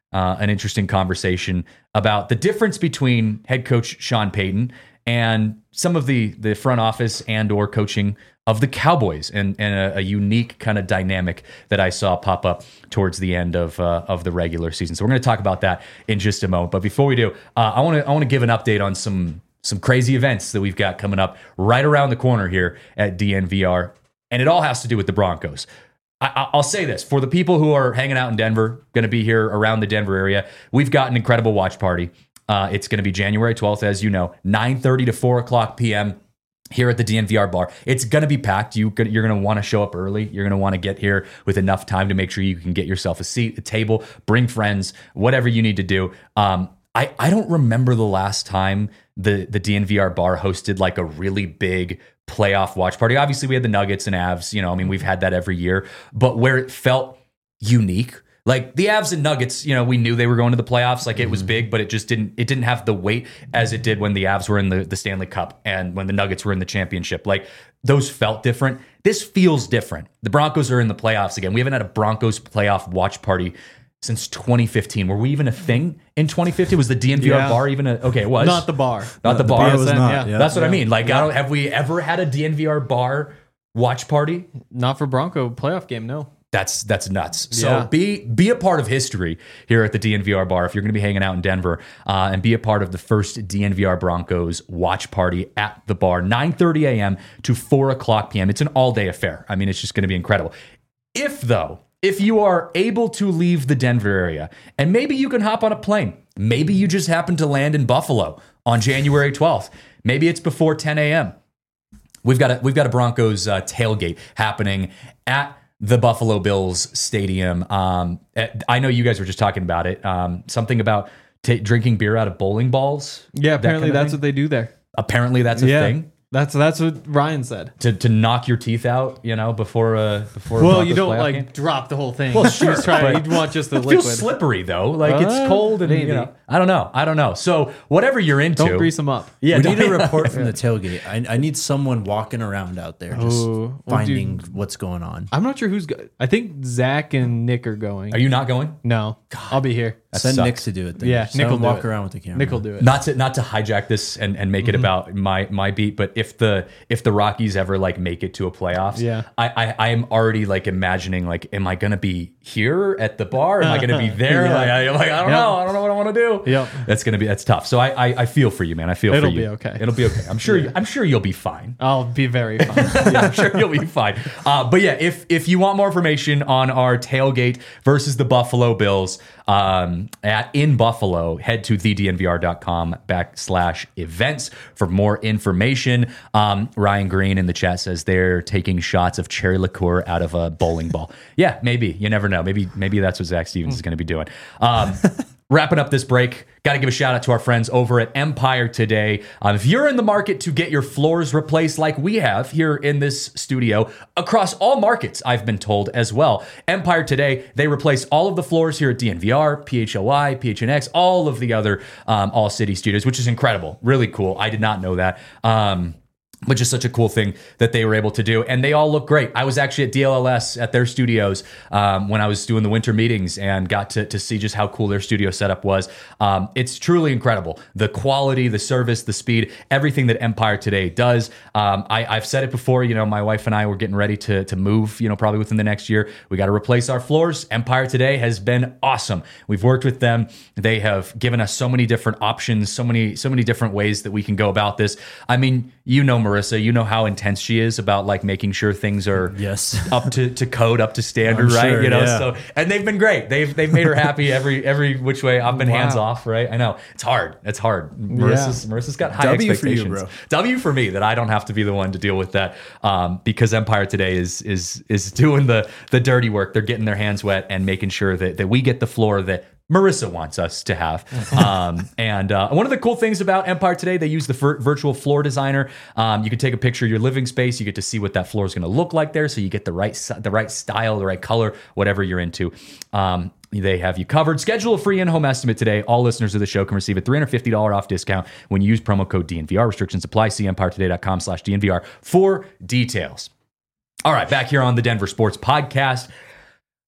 uh, an interesting conversation about the difference between head coach Sean Payton and some of the the front office and or coaching of the Cowboys, and, and a, a unique kind of dynamic that I saw pop up towards the end of uh, of the regular season. So we're going to talk about that in just a moment. But before we do, uh, I want to I want to give an update on some some crazy events that we've got coming up right around the corner here at D N V R, and it all has to do with the Broncos. I, I'll say this, for the people who are hanging out in Denver, going to be here around the Denver area, we've got an incredible watch party. Uh, it's going to be January twelfth, as you know, nine thirty to four o'clock p.m. here at the D N V R bar. It's going to be packed. You, you're going to want to show up early. You're going to want to get here with enough time to make sure you can get yourself a seat, a table, bring friends, whatever you need to do. Um, I, I don't remember the last time the, the D N V R bar hosted like a really big playoff watch party. Obviously, we had the Nuggets and Avs. You know, I mean, we've had that every year. But where it felt unique, like the Avs and Nuggets, you know, we knew they were going to the playoffs. Like it was big, but it just didn't. It didn't have the weight as it did when the Avs were in the, the Stanley Cup and when the Nuggets were in the championship. Like those felt different. This feels different. The Broncos are in the playoffs again. We haven't had a Broncos playoff watch party since twenty fifteen. Were we even a thing in twenty fifteen? Was the D N V R Yeah. bar even a okay? It was Not the bar. not the, The bar. bar was not, yeah. yeah. That's what I Yeah. mean. Like, I don't. Have we ever had a D N V R bar watch party? Not for Bronco playoff game, no. That's that's nuts. So Yeah. be be a part of history here at the D N V R bar if you're going to be hanging out in Denver, uh, and be a part of the first D N V R Broncos watch party at the bar, nine thirty a.m. to four o'clock p.m. It's an all day affair. I mean, it's just going to be incredible. If though, if you are able to leave the Denver area and maybe you can hop on a plane, maybe you just happen to land in Buffalo on January twelfth. Maybe it's before ten a.m. We've got a we've got a Broncos uh, tailgate happening at the Buffalo Bills Stadium. Um, I know you guys were just talking about it. Um, something about t- drinking beer out of bowling balls. Yeah, That apparently kind of that's thing? what they do there. Apparently that's a yeah. thing. That's that's what Ryan said. To, to knock your teeth out, you know, before a before. a Well, Broncos you don't playoff like game. drop the whole thing. Well, sure, He's trying, but- you want just the It liquid. feels slippery though, like Uh, it's cold and maybe. you know, I don't know, I don't know. So whatever you're into, Don't grease them up. yeah, we don't- need a report from the tailgate. I, I need someone walking around out there just Oh, well, finding dude. what's going on. I'm not sure who's go- I think Zach and Nick are going. Are you not going? No, I'll be here. That Send sucks. Nick to do it. Then. Yeah, Just Nick let will him do walk it. around with the camera. Nick will do it. Not to not to hijack this and, and make Mm-hmm. it about my my beat, but if the if the Rockies ever like make it to a playoffs, Yeah. I I, I am already like imagining like, am I gonna be here at the bar? Am I gonna be there? Yeah. Like, I, am like I don't Yeah. know, I don't know what I want to do. Yep. That's gonna be that's tough. So I I, I feel for you, man. I feel It'll for you. be okay. It'll be okay. I'm sure. you, I'm sure you'll be fine. I'll be very fine. Yeah, I'm sure you'll be fine. Uh, but yeah, if if you want more information on our tailgate versus the Buffalo Bills um, at in Buffalo, head to the d n v r dot com backslash events for more information. Um, Ryan Green in the chat says they're taking shots of cherry liqueur out of a bowling ball. Yeah, maybe. You never know. Maybe maybe that's what Zach Stevens is going to be doing. Um, Wrapping up this break, got to give a shout out to our friends over at Empire Today. Um, if you're in the market to get your floors replaced like we have here in this studio, across all markets, I've been told as well. Empire Today, they replace all of the floors here at D N V R, P H L I, P H N X, all of the other um, All City studios, which is incredible. Really cool. I did not know that. Um, but just such a cool thing that they were able to do. And they all look great. I was actually at D L L S at their studios um, when I was doing the winter meetings and got to, to see just how cool their studio setup was. Um, it's truly incredible. The quality, the service, the speed, everything that Empire Today does. Um, I, I've said it before, you know, my wife and I were getting ready to, to move, you know, probably within the next year. We got to replace our floors. Empire Today has been awesome. We've worked with them. They have given us so many different options, so many, so many different ways that we can go about this. I mean, you know, Marissa, you know how intense she is about like making sure things are Yes. up to, to code, up to standard, I'm right? sure, you know, yeah. so and they've been great. They've they've made her happy every every which way. I've been Wow. hands off, right? I know it's hard. It's hard. Marissa's Marissa's got high W for you, expectations. bro. W for me that I don't have to be the one to deal with that um, because Empire Today is is is doing the the dirty work. They're getting their hands wet and making sure that that we get the floor that Marissa wants us to have. Um, and uh, one of the cool things about Empire Today, they use the vir- virtual floor designer. Um, you can take a picture of your living space. You get to see what that floor is going to look like there. So you get the right si- the right style, the right color, whatever you're into. Um, they have you covered. Schedule a free in-home estimate today. All listeners of the show can receive a three hundred fifty dollars off discount when you use promo code D N V R. Restrictions apply. See empire today dot com slash D N V R for details. All right, back here on the Denver Sports Podcast.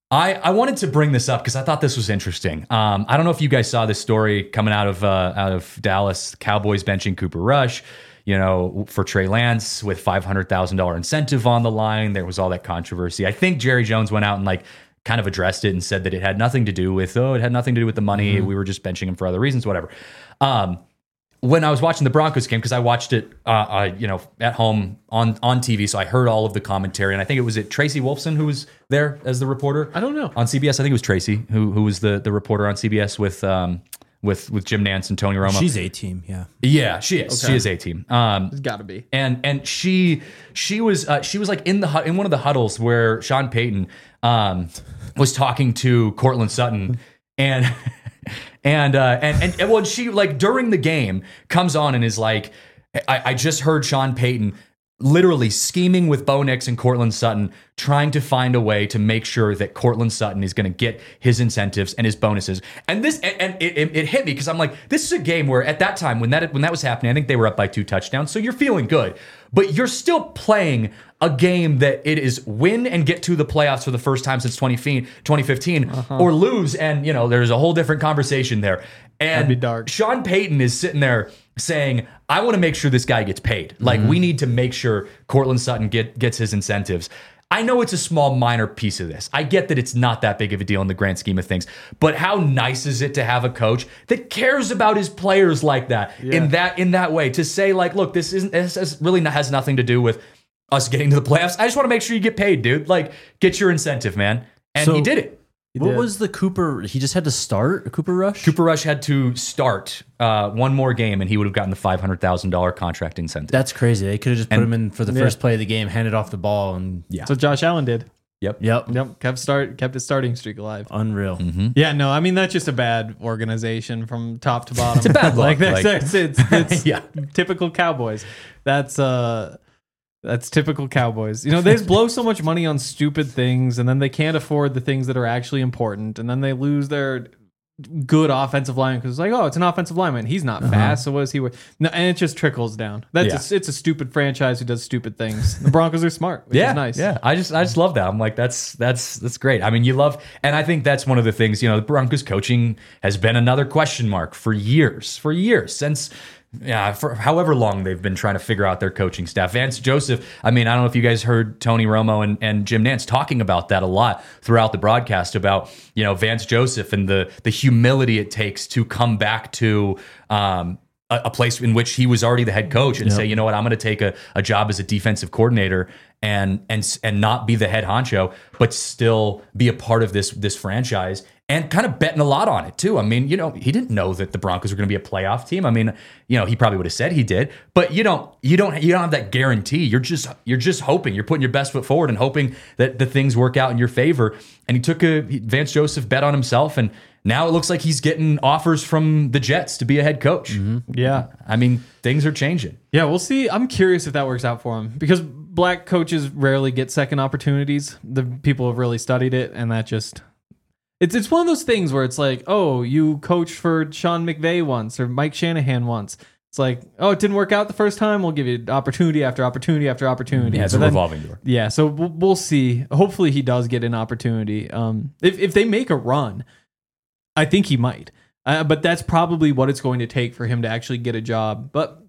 I, I wanted to bring this up because I thought this was interesting. Um, I don't know if you guys saw this story coming out of uh, out of Dallas. Cowboys benching Cooper Rush, you know, for Trey Lance with five hundred thousand dollars incentive on the line. There was all that controversy. I think Jerry Jones went out and like kind of addressed it and said that it had nothing to do with, oh, it had nothing to do with the money. Mm-hmm. We were just benching him for other reasons, whatever. Um, when I was watching the Broncos game, because I watched it, uh, uh, you know, at home on, on T V, so I heard all of the commentary, and I think it was it Tracy Wolfson who was there as the reporter. I don't know. On C B S, I think it was Tracy who who was the the reporter on C B S with um with with Jim Nantz and Tony Romo. She's A-team, yeah. Yeah, she is. Okay. She is A-team. Um, It's got to be. and and she she was uh, she was like in the hu- in one of the huddles where Sean Payton um, was talking to Cortland Sutton, and and uh, and and and well, she like during the game comes on and is like, I, I just heard Sean Payton literally scheming with Bo Nix and Cortland Sutton, trying to find a way to make sure that Cortland Sutton is going to get his incentives and his bonuses. And this, and, and it, it, it hit me because I'm like, this is a game where at that time when that when that was happening, I think they were up by two touchdowns, so you're feeling good, but you're still playing a game that it is win and get to the playoffs for the first time since twenty fifteen, uh-huh. or lose, and you know there's a whole different conversation there. And That'd be dark. Sean Payton is sitting there saying, I want to make sure this guy gets paid. Like, mm-hmm. we need to make sure Cortland Sutton get, gets his incentives. I know it's a small, minor piece of this. I get that it's not that big of a deal in the grand scheme of things. But how nice is it to have a coach that cares about his players like that, yeah. in that in that way, to say, like, look, this isn't this really has nothing to do with us getting to the playoffs. I just want to make sure you get paid, dude. Like, get your incentive, man. And So- he did it. He What did. was the Cooper? He just had to start Cooper Rush? Cooper Rush had to start uh, one more game, and he would have gotten the five hundred thousand dollars contract incentive. That's crazy. They could have just put And- him in for the Yeah. first play of the game, handed off the ball, and Yeah. That's what Josh Allen did. Yep. yep, Yep, kept start kept his starting streak alive. unreal. Yeah, no, I mean that's just a bad organization from top to bottom. It's a bad look, like that's, like- that's it's, it's Yeah. typical Cowboys. That's uh that's typical Cowboys. You know, they just blow so much money on stupid things, and then they can't afford the things that are actually important, and then they lose their good offensive lineman because it's like, oh, it's an offensive lineman. He's not fast, so what is he worth? No, and it just trickles down. That's Yeah. a, it's a stupid franchise who does stupid things. The Broncos are smart, which Yeah, is nice. yeah. I just, I just love that. I'm like, that's, that's, that's great. I mean, you love, and I think that's one of the things. You know, the Broncos coaching has been another question mark for years, for years since. Yeah, for however long they've been trying to figure out their coaching staff. Vance Joseph, I mean, I don't know if you guys heard Tony Romo and, and Jim Nantz talking about that a lot throughout the broadcast about, you know, Vance Joseph and the the humility it takes to come back to um, a, a place in which he was already the head coach and Yep. say, you know what, I'm going to take a, a job as a defensive coordinator and and and not be the head honcho, but still be a part of this this franchise. And kind of betting a lot on it too. I mean, you know, he didn't know that the Broncos were going to be a playoff team. I mean, you know, he probably would have said he did, but you don't, you don't, you don't have that guarantee. You're just, you're just hoping. You're putting your best foot forward and hoping that the things work out in your favor. And he took a Vance Joseph bet on himself, and now it looks like he's getting offers from the Jets to be a head coach. Yeah. I mean, things are changing. Yeah, we'll see. I'm curious if that works out for him because black coaches rarely get second opportunities. The people have really studied it, and that just it's it's one of those things where it's like, oh, you coached for Sean McVay once or Mike Shanahan once. It's like, oh, it didn't work out the first time. We'll give you opportunity after opportunity after opportunity. Yeah, it's But a then- revolving door. Yeah, so we'll, we'll see. Hopefully, he does get an opportunity. Um, if if they make a run, I think he might. Uh, but that's probably what it's going to take for him to actually get a job. But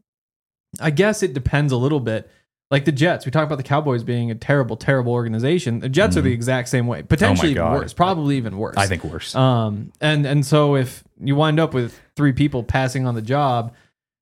I guess it depends a little bit. Like the Jets, we talk about the Cowboys being a terrible, terrible organization. The Jets are the exact same way, potentially even God. worse, probably even worse. I think worse. Um, and and so if you wind up with three people passing on the job,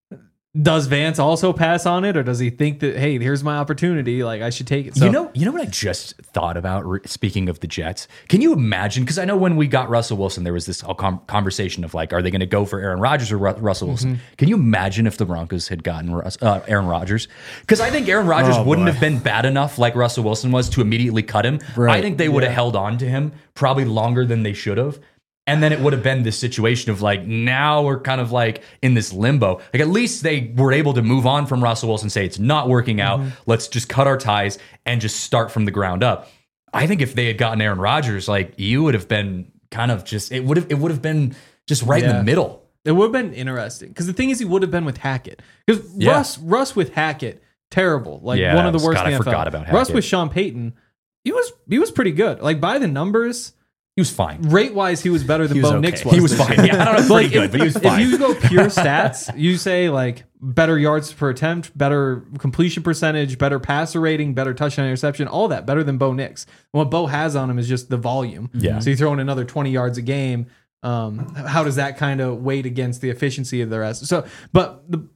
does Vance also pass on it, or does he think that, hey, here's my opportunity, like I should take it? So, you know, you know what I just thought about. re- Speaking of the Jets, can you imagine? Because I know when we got Russell Wilson, there was this whole com- conversation of like, are they going to go for Aaron Rodgers or Ru- Russell Wilson? Mm-hmm. Can you imagine if the Broncos had gotten Russ, uh, Aaron Rodgers? Because I think Aaron Rodgers Oh, wouldn't boy. have been bad enough like Russell Wilson was to immediately cut him. Right. I think they would have Yeah. held on to him probably longer than they should have. And then it would have been this situation of like, now we're kind of like in this limbo. Like, at least they were able to move on from Russell Wilson, say it's not working out. Let's just cut our ties and just start from the ground up. I think if they had gotten Aaron Rodgers, like, you would have been kind of just, it would have, it would have been just right in Yeah. the middle. it would have been interesting because the thing is, he would have been with Hackett because Yeah. Russ Russ with Hackett, terrible, like Yeah, one of the that was- worst God, in I the N F L. forgot about Russ Hackett. with Sean Payton, he was he was pretty good. Like by the numbers, He was fine. Rate wise, he was better than He was Bo okay. Nix was. He was this fine. year. Yeah, I don't know, pretty good, but he was fine. If you go pure stats, you say like better yards per attempt, better completion percentage, better passer rating, better touchdown interception, all that better than Bo Nix. What Bo has on him is just the volume. Yeah. So you throw in another twenty yards a game. Um, how does that kind of weight against the efficiency of the rest? So, but the,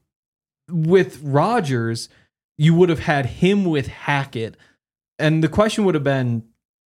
with Rodgers, you would have had him with Hackett, and the question would have been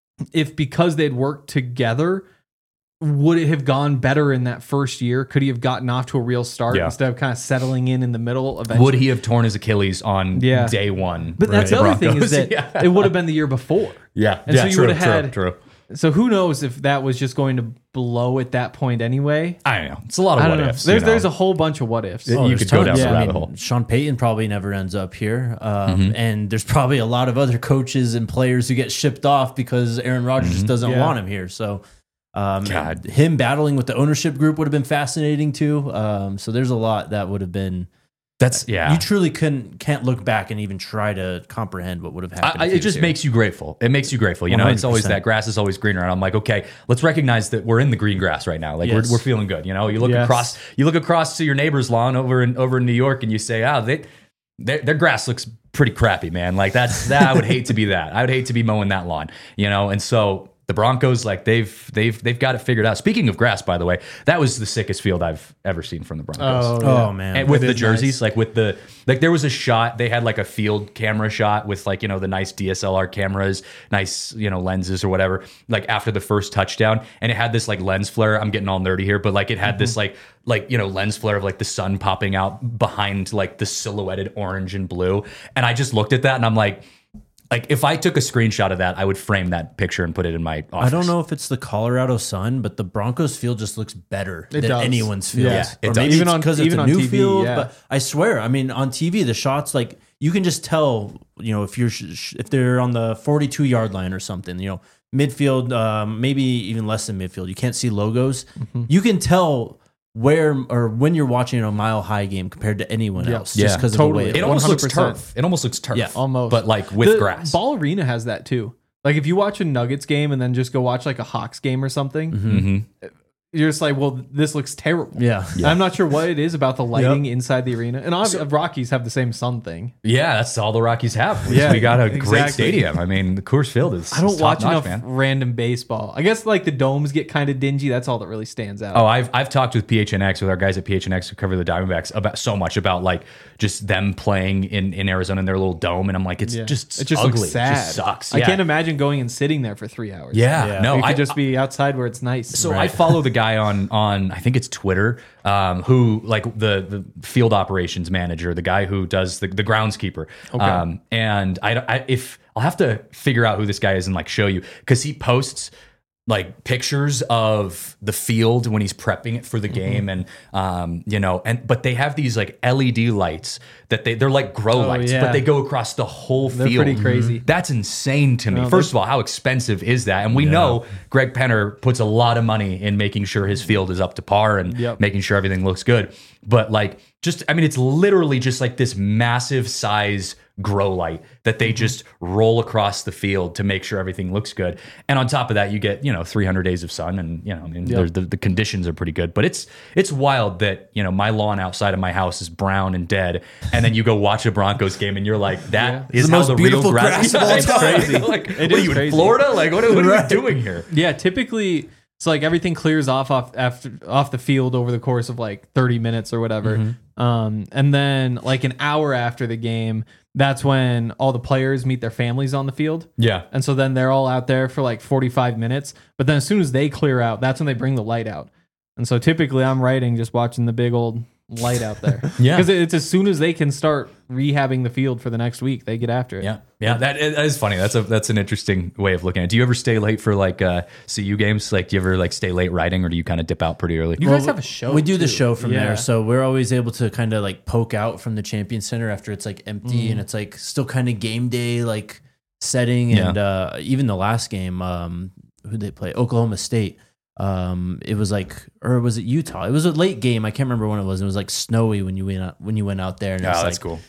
if because they'd worked together, would it have gone better in that first year? Could he have gotten off to a real start Yeah. instead of kind of settling in in the middle eventually? Would he have torn his Achilles on Yeah. day one? But that's with the other thing is Broncos? that yeah. it would have been the year before. yeah, And yeah, so you true, would have had- true, true. So who knows if that was just going to blow at that point anyway? I don't know. It's a lot of I what don't know. ifs. There's you know? there's a whole bunch of what ifs. Oh, you there's could go tons. down the I rabbit mean, hole. Sean Payton probably never ends up here. Um, Mm-hmm. And there's probably a lot of other coaches and players who get shipped off because Aaron Rodgers just doesn't Yeah. want him here. So um, God. him battling with the ownership group would have been fascinating too. Um, so there's a lot that would have been. That's yeah. You truly couldn't can't look back and even try to comprehend what would have happened. I, if it he just was here. makes you grateful. It makes you grateful. You know, it's always one hundred percent. that grass is always greener. And I'm like, okay, let's recognize that we're in the green grass right now. Like Yes. we're, we're feeling good. You know, you look Yes. across, you look across to your neighbor's lawn over in over in New York, and you say, ah, they, their, their grass looks pretty crappy, man. Like that's that. I would hate to be that. I would hate to be mowing that lawn. You know, and so. The Broncos, like they've they've they've got it figured out. Speaking of grass, by the way, that was the sickest field I've ever seen from the Broncos. Oh, yeah. Oh man, And with It the is jerseys, nice. like with the like, there was a shot. They had like a field camera shot with like you know the nice D S L R cameras, nice you know lenses or whatever. Like after the first touchdown, and it had this like lens flare. I'm getting all nerdy here, but like it had this like like you know lens flare of like the sun popping out behind like the silhouetted orange and blue. And I just looked at that and I'm like. Like if I took a screenshot of that, I would frame that picture and put it in my office. I don't know if it's the Colorado Sun, but the Broncos field just looks better It than does. anyone's field. Yeah, it or does. maybe Even it's on- because it's even a on new T V, field. yeah. But I swear, I mean, on T V, the shots like you can just tell. You know, if you're sh- sh- if they're on the forty-two yard line or something. You know, midfield, um, maybe even less than midfield. You can't see logos. Mm-hmm. You can tell where or when you're watching a mile high game compared to anyone Yeah. else. Yeah, just because totally. of the way It it almost looks one hundred percent. turf. It almost looks turf. Yeah, almost. But like with The grass. Ball Arena has that too. Like if you watch a Nuggets game and then just go watch like a Hawks game or something, Mm-hmm. you're just like, well, this looks terrible. Yeah. I'm not sure what it is about the lighting inside the arena. And obviously, Rockies have the same sun thing. Yeah, that's all the Rockies have. We, Yeah, we got a great exactly. stadium. I mean, the Coors Field is. I don't is watch top-notch, enough man. random baseball. I guess like the domes get kind of dingy. That's all that really stands out. Oh, I've I've talked with P H N X with our guys at P H N X who cover the Diamondbacks about so much about like just them playing in, in Arizona in their little dome, and I'm like, it's Yeah. just it just ugly. looks sad. It just sucks. I Yeah. can't imagine going and sitting there for three hours. Yeah, Yeah. no, you could I just be outside where it's nice. So I follow the guy on on I think it's Twitter, um, who like the the field operations manager, the guy who does the, the groundskeeper. Um, and I, I if I'll have to figure out who this guy is and like show you because he posts like pictures of the field when he's prepping it for the game and um you know and but they have these like L E D lights that they they're like grow lights yeah. but they go across the whole They're field. pretty crazy. That's insane to me. No, First of all, how expensive is that? And we know Greg Penner puts a lot of money in making sure his field is up to par and Yep. making sure everything looks good. But like, just I mean, it's literally just like this massive size grow light that they just roll across the field to make sure everything looks good. And on top of that, you get you know three hundred days of sun, and you know I mean there's the the conditions are pretty good. But it's it's wild that you know my lawn outside of my house is brown and dead, and then you go watch a Broncos game and you're like, that It's is the how most the beautiful real grass, grass of all I know. time. Crazy. Like, It what are is you in crazy. Florida? Like, what, what are Right. you doing here? Yeah, typically it's like everything clears off off after off the field over the course of like thirty minutes or whatever. Mm-hmm. Um, and then like an hour after the game, that's when all the players meet their families on the field. Yeah. And so then they're all out there for like forty-five minutes. But then as soon as they clear out, that's when they bring the light out. And so typically I'm writing just watching the big old light out there. Yeah. Because it's as soon as they can start rehabbing the field for the next week, they get after it. Yeah, yeah, that, that is funny. That's a that's an interesting way of looking at it. Do you ever stay late for like uh, C U games? Like, do you ever like stay late writing, or do you kind of dip out pretty early? You guys have a show. We do the too. show from Yeah. there, so we're always able to kind of like poke out from the Champion Center after it's like empty and it's like still kind of game day like setting. Yeah. And uh, even the last game, um, who they play, Oklahoma State. Um, it was like, or was it Utah? It was a late game. I can't remember when it was. It was like snowy when you went out when you went out there. And Oh, it's that's like, cool.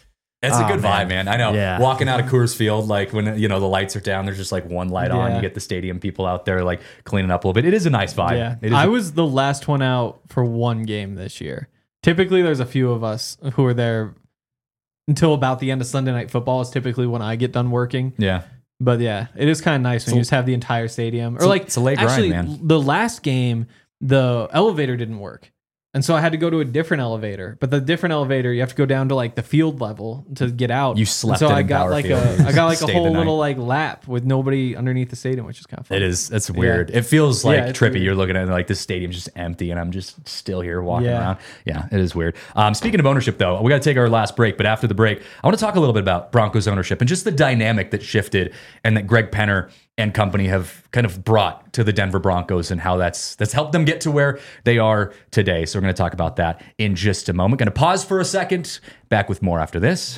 It's a Oh, good man. vibe, man. I know. Yeah. Walking out of Coors Field, like when you know the lights are down, there's just like one light on. Yeah. You get the stadium people out there like cleaning up a little bit. It is a nice vibe. Yeah, It is I a- was the last one out for one game this year. Typically, there's a few of us who are there until about the end of Sunday Night Football. Is typically when I get done working. yeah. But yeah, it is kind of nice when you just have the entire stadium. Or a- like, it's a late grind, actually, man. the last game, the elevator didn't work. And so I had to go to a different elevator. But the different elevator, you have to go down to like the field level to get out. You slept and so in I got Bauer like Field. a I got like a Stayed the whole night. little like lap with nobody underneath the stadium, which is kind of fun. It is. That's weird. It feels like Yeah, it's trippy. weird. You're looking at it like this stadium's just empty, and I'm just still here walking Yeah. around. Yeah, it is weird. Um, speaking of ownership, though, we got to take our last break. But after the break, I want to talk a little bit about Broncos ownership and just the dynamic that shifted and that Greg Penner and company have kind of brought to the Denver Broncos and how that's that's helped them get to where they are today. So we're going to talk about that in just a moment. Going to pause for a second. Back with more after this.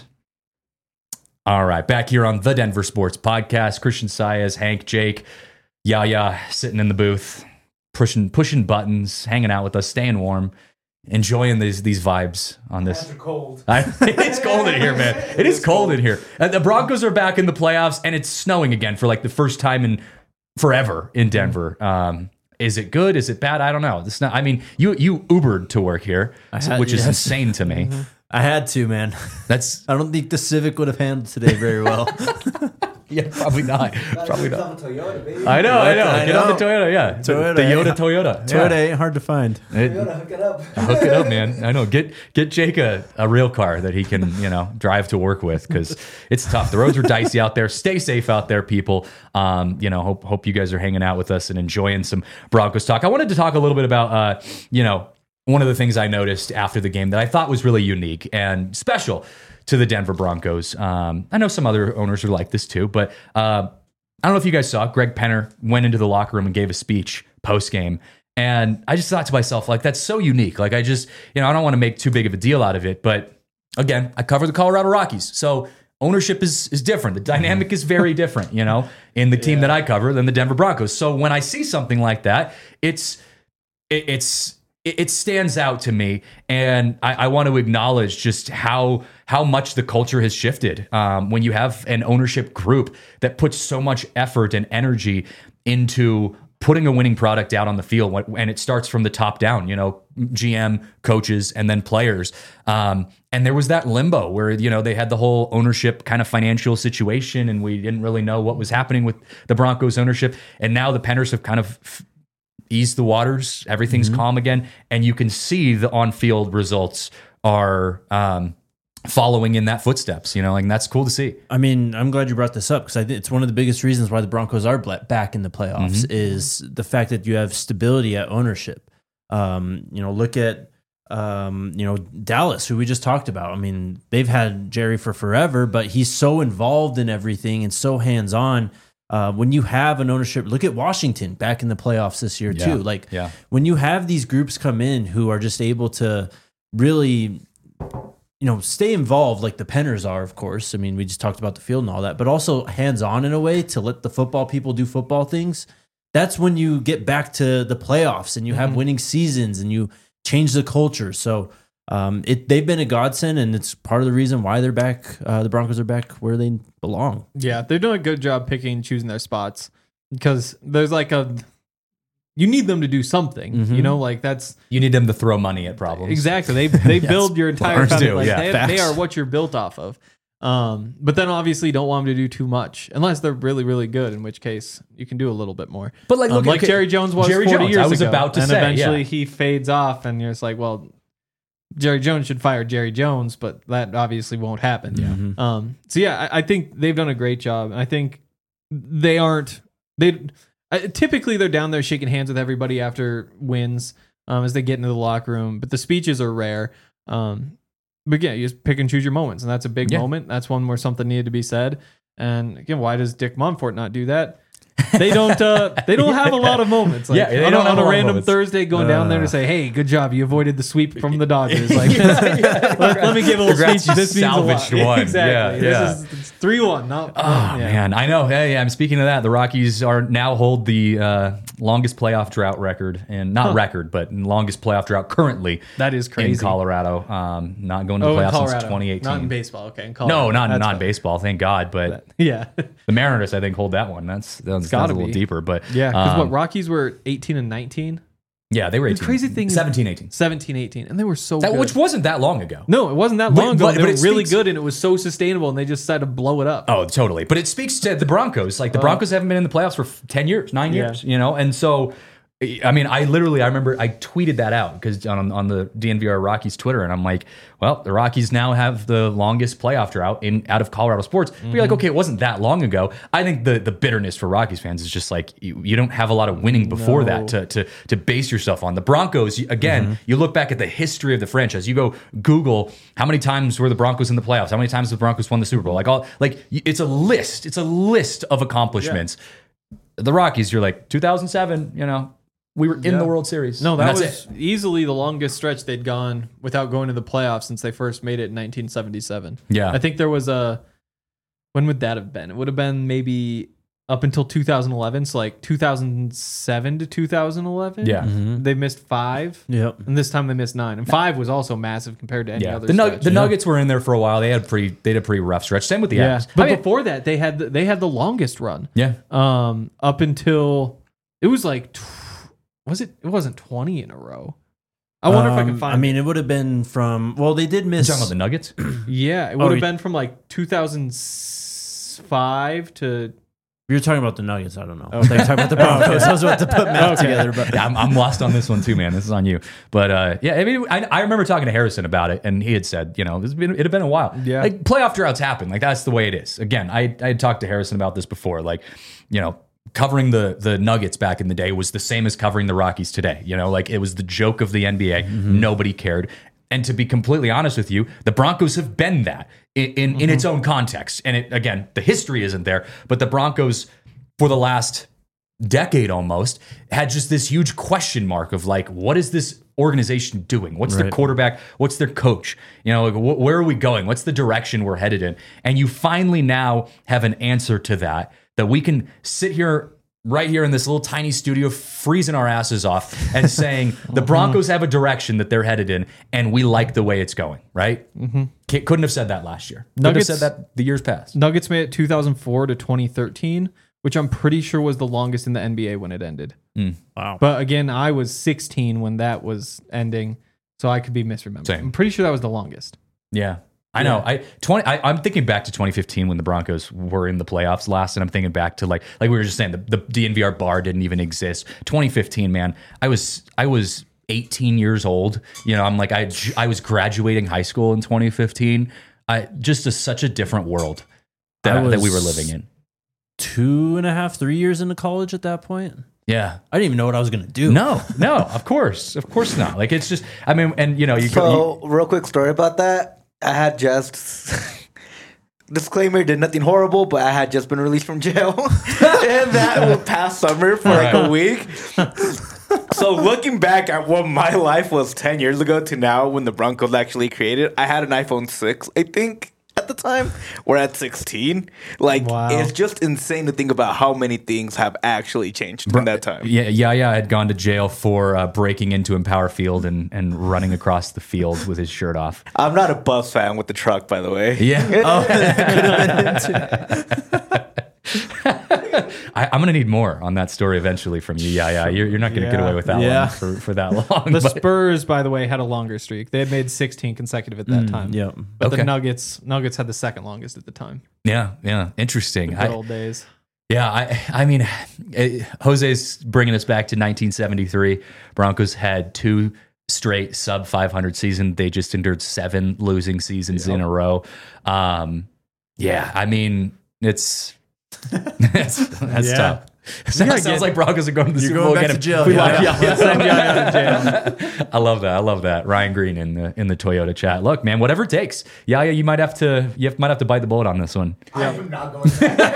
All right, back here on the Denver Sports Podcast. Christian Saez, Hank, Jake, Yaya sitting in the booth, pushing pushing buttons, hanging out with us, staying warm, enjoying these these vibes on this. Cold. I, it's cold in here, man. It is cold in here. And the Broncos are back in the playoffs, and it's snowing again for like the first time in forever in Denver. Um, is it good? Is it bad? I don't know. It's not. I mean, you you Ubered to work here, had- which is yes. insane to me. I had to, man. That's I don't think the Civic would have handled today very well. yeah, probably not. Probably not. Toyota, baby. I know, I know. I Get on the know. Toyota, yeah. The- Toyota, the yeah. Yoda Toyota. Toyota Yeah. ain't hard to find. It- Toyota, hook it up. Hook it up, man. I know. Get get Jake a, a real car that he can, you know, drive to work with because it's tough. The roads are dicey out there. Stay safe out there, people. Um, you know, hope hope you guys are hanging out with us and enjoying some Broncos talk. I wanted to talk a little bit about, uh, you know, one of the things I noticed after the game that I thought was really unique and special to the Denver Broncos. Um, I know some other owners are like this too, but uh, I don't know if you guys saw Greg Penner went into the locker room and gave a speech post game. And I just thought to myself, like, that's so unique. Like, I just, you know, I don't want to make too big of a deal out of it. But again, I cover the Colorado Rockies. So ownership is is different. The dynamic is very different, you know, in the team that I cover than the Denver Broncos. So when I see something like that, it's, it, it's, it it stands out to me, and I, I want to acknowledge just how how much the culture has shifted um, when you have an ownership group that puts so much effort and energy into putting a winning product out on the field, when- and it starts from the top down. You know, G M, coaches, and then players. Um, and there was that limbo where you know they had the whole ownership kind of financial situation, and we didn't really know what was happening with the Broncos ownership. And now the Penners have kind of f- ease the waters, everything's calm again, and you can see the on-field results are um, following in that footsteps. You know, like that's cool to see. I mean, I'm glad you brought this up because I think it's one of the biggest reasons why the Broncos are bla- back in the playoffs is the fact that you have stability at ownership. Um, you know, look at um, you know Dallas, who we just talked about. I mean, they've had Jerry for forever, but he's so involved in everything and so hands-on. Uh, when you have an ownership, look at Washington back in the playoffs this year Yeah. too. Like Yeah. when you have these groups come in who are just able to really, you know, stay involved like the Penners are, of course. I mean, we just talked about the field and all that, but also hands on in a way to let the football people do football things. That's when you get back to the playoffs and you have winning seasons and you change the culture. So um, it they've been a godsend, and it's part of the reason why they're back. Uh, the Broncos are back where they belong. Yeah, they're doing a good job picking and choosing their spots because there's like a you need them to do something. Mhm. You know, like that's You need them to throw money at problems. exactly they they Yes, build your entire owners company. do, Like yeah, they, facts. they are what you're built off of. Um, but then obviously you don't want them to do too much unless they're really really good, in which case you can do a little bit more. But like, Um, look, like okay, Jerry Jones was Jerry forty Jones, years I was ago, about to and say, eventually yeah. he fades off, and you're just like, well, Jerry Jones should fire Jerry Jones, but that obviously won't happen. Um, so yeah, I, I think they've done a great job. I think they aren't they uh, typically they're down there shaking hands with everybody after wins um, as they get into the locker room, but the speeches are rare. Um, but yeah, you just pick and choose your moments, and that's a big Yeah. moment. That's one where something needed to be said. And again, why does Dick Mumford not do that? They don't. Uh, they don't have a lot of moments. Like, Yeah, they on, don't a, have on a a lot of random moments. Thursday, going down there to say, "Hey, good job, you avoided the sweep from the Dodgers." Like, let, let me give a little Congrats, speech. you This means a lot. salvaged one. Exactly. Yeah, This is three one. Not. Oh yeah. man, I know. Hey, I'm speaking of that. The Rockies are now hold the uh, longest playoff drought record, and not Huh. record, but longest playoff drought currently That is crazy. in Colorado. Um, not going to the Oh, in playoffs since Colorado, twenty eighteen. not in baseball. Okay, in Colorado. No, not That's not fine. in baseball. Thank God. But Yeah, the Mariners, I think, hold that one. That's that's, gotta that's a little be. deeper. But yeah. Because um, what Rockies were eighteen and nineteen, yeah, they were eighteen. crazy thing is- seventeen, eighteen. seventeen, eighteen, and they were so That, good. which wasn't that long ago. no, it wasn't that But- long ago. but- They but were it really speaks- good, and it was so sustainable, and they just decided to blow it up. Oh, totally. But it speaks to the Broncos. Like the Oh. Broncos haven't been in the playoffs for f- ten years, nine Yeah. years, you know? And so, I mean, I literally, I remember I tweeted that out because on, on the D N V R Rockies Twitter, and I'm like, well, the Rockies now have the longest playoff drought in out of Colorado sports. But you're like, okay, it wasn't that long ago. I think the the bitterness for Rockies fans is just like, you, you don't have a lot of winning before No. that to, to, to base yourself on. The Broncos, you- again, you look back at the history of the franchise, you go Google how many times were the Broncos in the playoffs? How many times the Broncos won the Super Bowl? Like all, like it's a list. It's a list of accomplishments. The Rockies, you're like two thousand seven, you know, we were in Yeah. the World Series. No, And that that's was easily the longest stretch they'd gone without going to the playoffs since they first made it in nineteen seventy-seven. Yeah. I think there was a. When would that have been? It would have been maybe up until two thousand eleven. So like two thousand seven to two thousand eleven. Yeah. Mhm. They missed five. Yep. And this time they missed nine. And five was also massive compared to any Yeah, other the, Nug- stretch. the Nuggets were in there for a while. They had pretty, they had a pretty rough stretch. Same with the Yeah. Avs. But I mean, before that, they had the, they had the longest run. yeah, Um, up until it was like, tw- was it? It wasn't twenty in a row. I wonder if I can Um, find. I mean, it would have been from. Well, they did you miss. talking about the Nuggets? yeah, it would Oh, have you- been from like two thousand five to. You're talking about the Nuggets. I don't know. Okay. They're talking about the Broncos. I was about to put math Okay. together, but Yeah, I'm, I'm lost on this one too, man. This is on you. But uh, yeah, I mean, I, I remember talking to Harrison about it, and he had said, you know, it's been, it had been a while. Yeah. like playoff droughts happen. Like that's the way it is. Again, I I had talked to Harrison about this before. Like, you know, covering the the Nuggets back in the day was the same as covering the Rockies today. You know, like it was the joke of the N B A. Nobody cared. And to be completely honest with you, the Broncos have been that in in, in its own context. And it again, the history isn't there, but the Broncos for the last decade almost had just this huge question mark of like, what is this organization doing? What's their Right. quarterback? What's their coach? You know, like, wh- where are we going? What's the direction we're headed in? And you finally now have an answer to that, that we can sit here right here in this little tiny studio, freezing our asses off and saying the Broncos have a direction that they're headed in, and we like the way it's going, right? Mm-hmm. Couldn't have said that last year. Couldn't Nuggets- have said that the years past. Nuggets made it two thousand four to twenty thirteen, which I'm pretty sure was the longest in the N B A when it ended. wow. But again, I was sixteen when that was ending, so I could be misremembered. Same. I'm pretty sure that was the longest. Yeah. I know. I twenty. I, I'm thinking back to twenty fifteen when the Broncos were in the playoffs last, and I'm thinking back to like like we were just saying the, the D N V R bar didn't even exist. twenty fifteen, man. I was I was eighteen years old. You know, I'm like I I was graduating high school in twenty fifteen. I just a, such a different world that I that we were was- living in. Two and a half, three years into college at that point. Yeah. I didn't even know what I was gonna do. No, no, of course, of course not. Like it's just, I mean, and you know, you, So, real quick story about that. I had just disclaimer, did nothing horrible, but I had just been released from jail, and that past summer for like a week. So looking back at what my life was ten years ago to now, when the Broncos actually created, I had an iPhone six, I think. At the time, we're at sixteen. Like, Wow. it's just insane to think about how many things have actually changed in that time. Yeah, yeah, yeah. I had gone to jail for uh, breaking into Empower Field and, and running across the field with his shirt off. I'm not a Buffs fan with the truck, by the way. Yeah. I, I'm gonna need more on that story eventually from you. Yeah, yeah. You're, you're not gonna get Yeah. away with that Yeah. one for, for that long. The but- Spurs, by the way, had a longer streak. They had made sixteen consecutive at that time. Yep. But Okay. the Nuggets, Nuggets had the second longest at the time. yeah, yeah. Interesting. Good I, old days. Yeah, I I mean, eh, Jose's bringing us back to nineteen seventy-three. Broncos had two straight sub five hundred seasons. They just endured seven losing seasons in a row. Um, yeah, I mean, it's that's, that's Yeah. tough. Sounds, Yeah, sounds get- like Broncos are going to the You're Super going Bowl back again. to jail, We yeah. lost- yeah, yeah. Send Yaya to jail. I love that. I love that. Ryan Green in the in the Toyota chat. Look, man, whatever it takes. Yaya, you might have to you have, might have to bite the bullet on this one. I am not going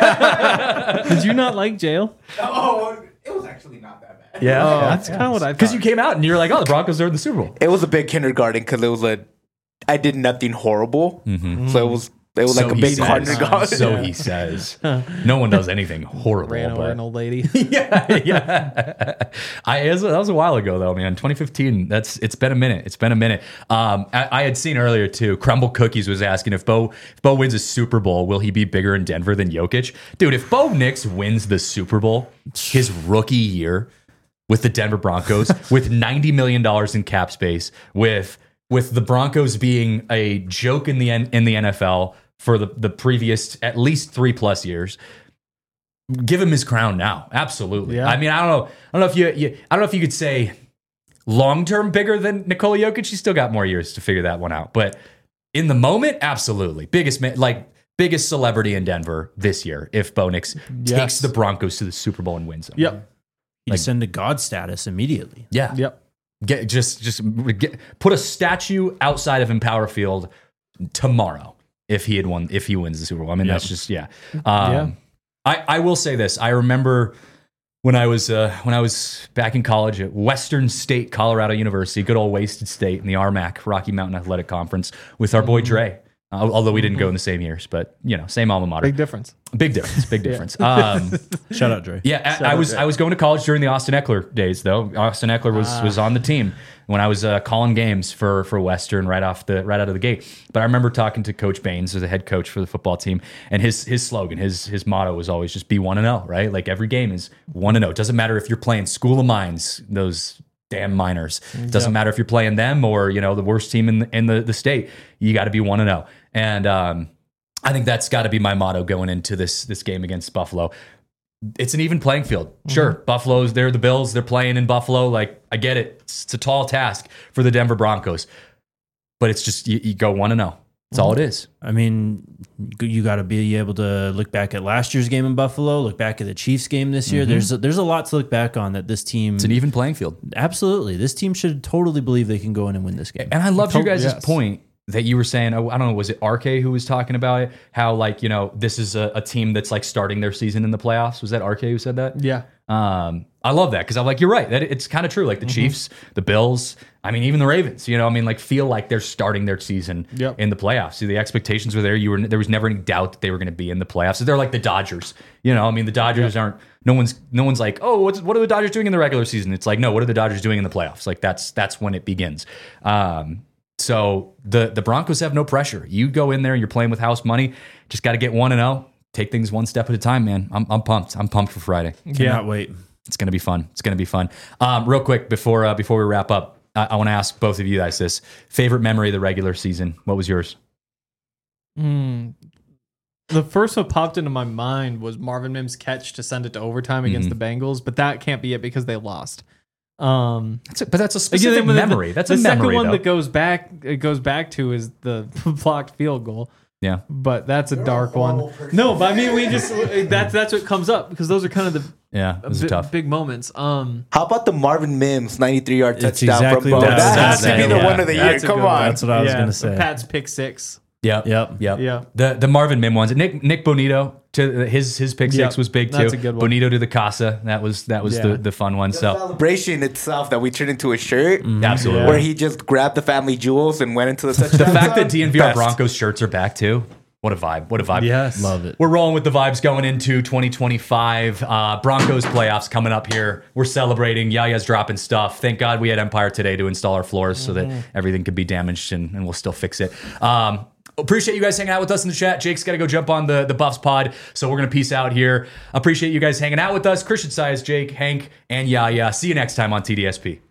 to. Did you not like jail? Oh, it was actually not that bad. Yeah, Oh, that's kind of what I thought. because you came out and you're like, oh, the Broncos are in the Super Bowl. It was a big kindergarten because it was a. I did nothing horrible, so it was. It was So like a he big says. kindergarten. So he says. No one does anything horrible. ran over but- an old lady. yeah, yeah. I it was, that was a while ago though, man. twenty fifteen. That's it's been a minute. It's been a minute. Um, I, I had seen earlier too. Crumble Cookies was asking if Bo if Bo wins a Super Bowl, will he be bigger in Denver than Jokic? Dude, if Bo Nix wins the Super Bowl, his rookie year with the Denver Broncos, with ninety million dollars in cap space, with with the Broncos being a joke in the N- in the N F L for the, the previous at least three plus years. Give him his crown now. Absolutely. Yeah. I mean, I don't know. I don't know if you, you I don't know if you could say long term bigger than Nikola Jokic. He's still got more years to figure that one out. But in the moment, absolutely. Biggest ma- like biggest celebrity in Denver this year if Bo Nix Yes. takes the Broncos to the Super Bowl and wins them. Yep. You send to God status immediately. Yeah. Yep. Get just just get, put a statue outside of Empower Field tomorrow if he had won if he wins the Super Bowl. I mean, Yep. that's just yeah. Um, Yeah. I I will say this. I remember when I was uh, when I was back in college at Western State Colorado University, good old Wasted State in the R M A C Rocky Mountain Athletic Conference with our boy Dre. Uh, although we didn't go in the same years, but you know, same alma mater. Big difference. Big difference. Big difference. Um, Shout out, Dre. yeah, I, I was I was going to college during the Austin Eckler days, though. Austin Eckler was was on the team when I was uh, calling games for for Western right off the right out of the gate. But I remember talking to Coach Baines, who's the head coach for the football team, and his his slogan, his his motto was always just be one and zero, right? Like every game is one and zero. It doesn't matter if you're playing School of Mines, those damn Miners. It doesn't matter if you're playing them or you know the worst team in the, in the the state. You got to be one and zero. And um, I think that's got to be my motto going into this this game against Buffalo. It's an even playing field. Sure, Buffalo's, they're the Bills. They're playing in Buffalo. Like, I get it. It's, it's a tall task for the Denver Broncos. But it's just, you, you go one and oh. That's all it is. I mean, you got to be able to look back at last year's game in Buffalo, look back at the Chiefs game this year. There's a, there's a lot to look back on that this team. It's an even playing field. Absolutely, this team should totally believe they can go in and win this game. And I loved your To- guys' yes. point that you were saying, oh, I don't know, was it R K who was talking about it? How, like, you know, this is a, a team that's like starting their season in the playoffs. Was that R K who said that? Yeah. Um, I love that because I'm like, you're right. That it's kind of true. Like the Chiefs, the Bills, I mean, even the Ravens. You know, I mean, like feel like they're starting their season Yep. in the playoffs. So the expectations were there. You were there was never any doubt that they were going to be in the playoffs. So they're like the Dodgers. You know, I mean, the Dodgers aren't. No one's no one's like, oh, what's, what are the Dodgers doing in the regular season? It's like, no, what are the Dodgers doing in the playoffs? Like that's that's when it begins. Um, so the the Broncos have no pressure. You go in there and you're playing with house money. Just got to get one and zero. Take things one step at a time, man. I'm I'm pumped. I'm pumped for Friday. Cannot wait. It's gonna be fun. It's gonna be fun. Um, real quick before uh, before we wrap up, I, I want to ask both of you guys this: favorite memory of the regular season. What was yours? Mm. The first one popped into my mind was Marvin Mims' catch to send it to overtime against Mhm. the Bengals, but that can't be it because they lost. Um, That's a, but that's a again, specific the- the- memory. That's the a memory. second one though. that goes back. It goes back to is the blocked field goal. yeah. But that's a You're a dark horrible one. person. No, but I mean, we just that's that's what comes up because those are kind of the Yeah. It was bi- tough. big moments. Um, How about the Marvin Mims ninety-three yard It's touchdown exactly from Bo? that. That That's- has to be the yeah, one of the year. that's a Come good one. on. That's what I was yeah, gonna say. Pat's pick six. Yep. Yep. Yep. Yeah. The the Marvin Mim ones. Nick Nick Bonito to his his pick Yep. six was big too. That's a good one. Bonito to the Casa. That was that was Yeah. the, the fun one. The So celebration itself that we turned into a shirt, absolutely. where he just grabbed the family jewels and went into the touchdown. The fact that zone, D N V R best. Broncos shirts are back too. What a vibe. What a vibe. Yes. Love it. We're rolling with the vibes going into twenty twenty-five. Uh, Broncos playoffs coming up here. We're celebrating. Yaya's dropping stuff. Thank God we had Empire today to install our floors so that everything could be damaged and, and we'll still fix it. Um, appreciate you guys hanging out with us in the chat. Jake's got to go jump on the, the Buffs pod, so we're going to peace out here. Appreciate you guys hanging out with us. Christian Size, Jake, Hank, and Yaya. See you next time on T D S P.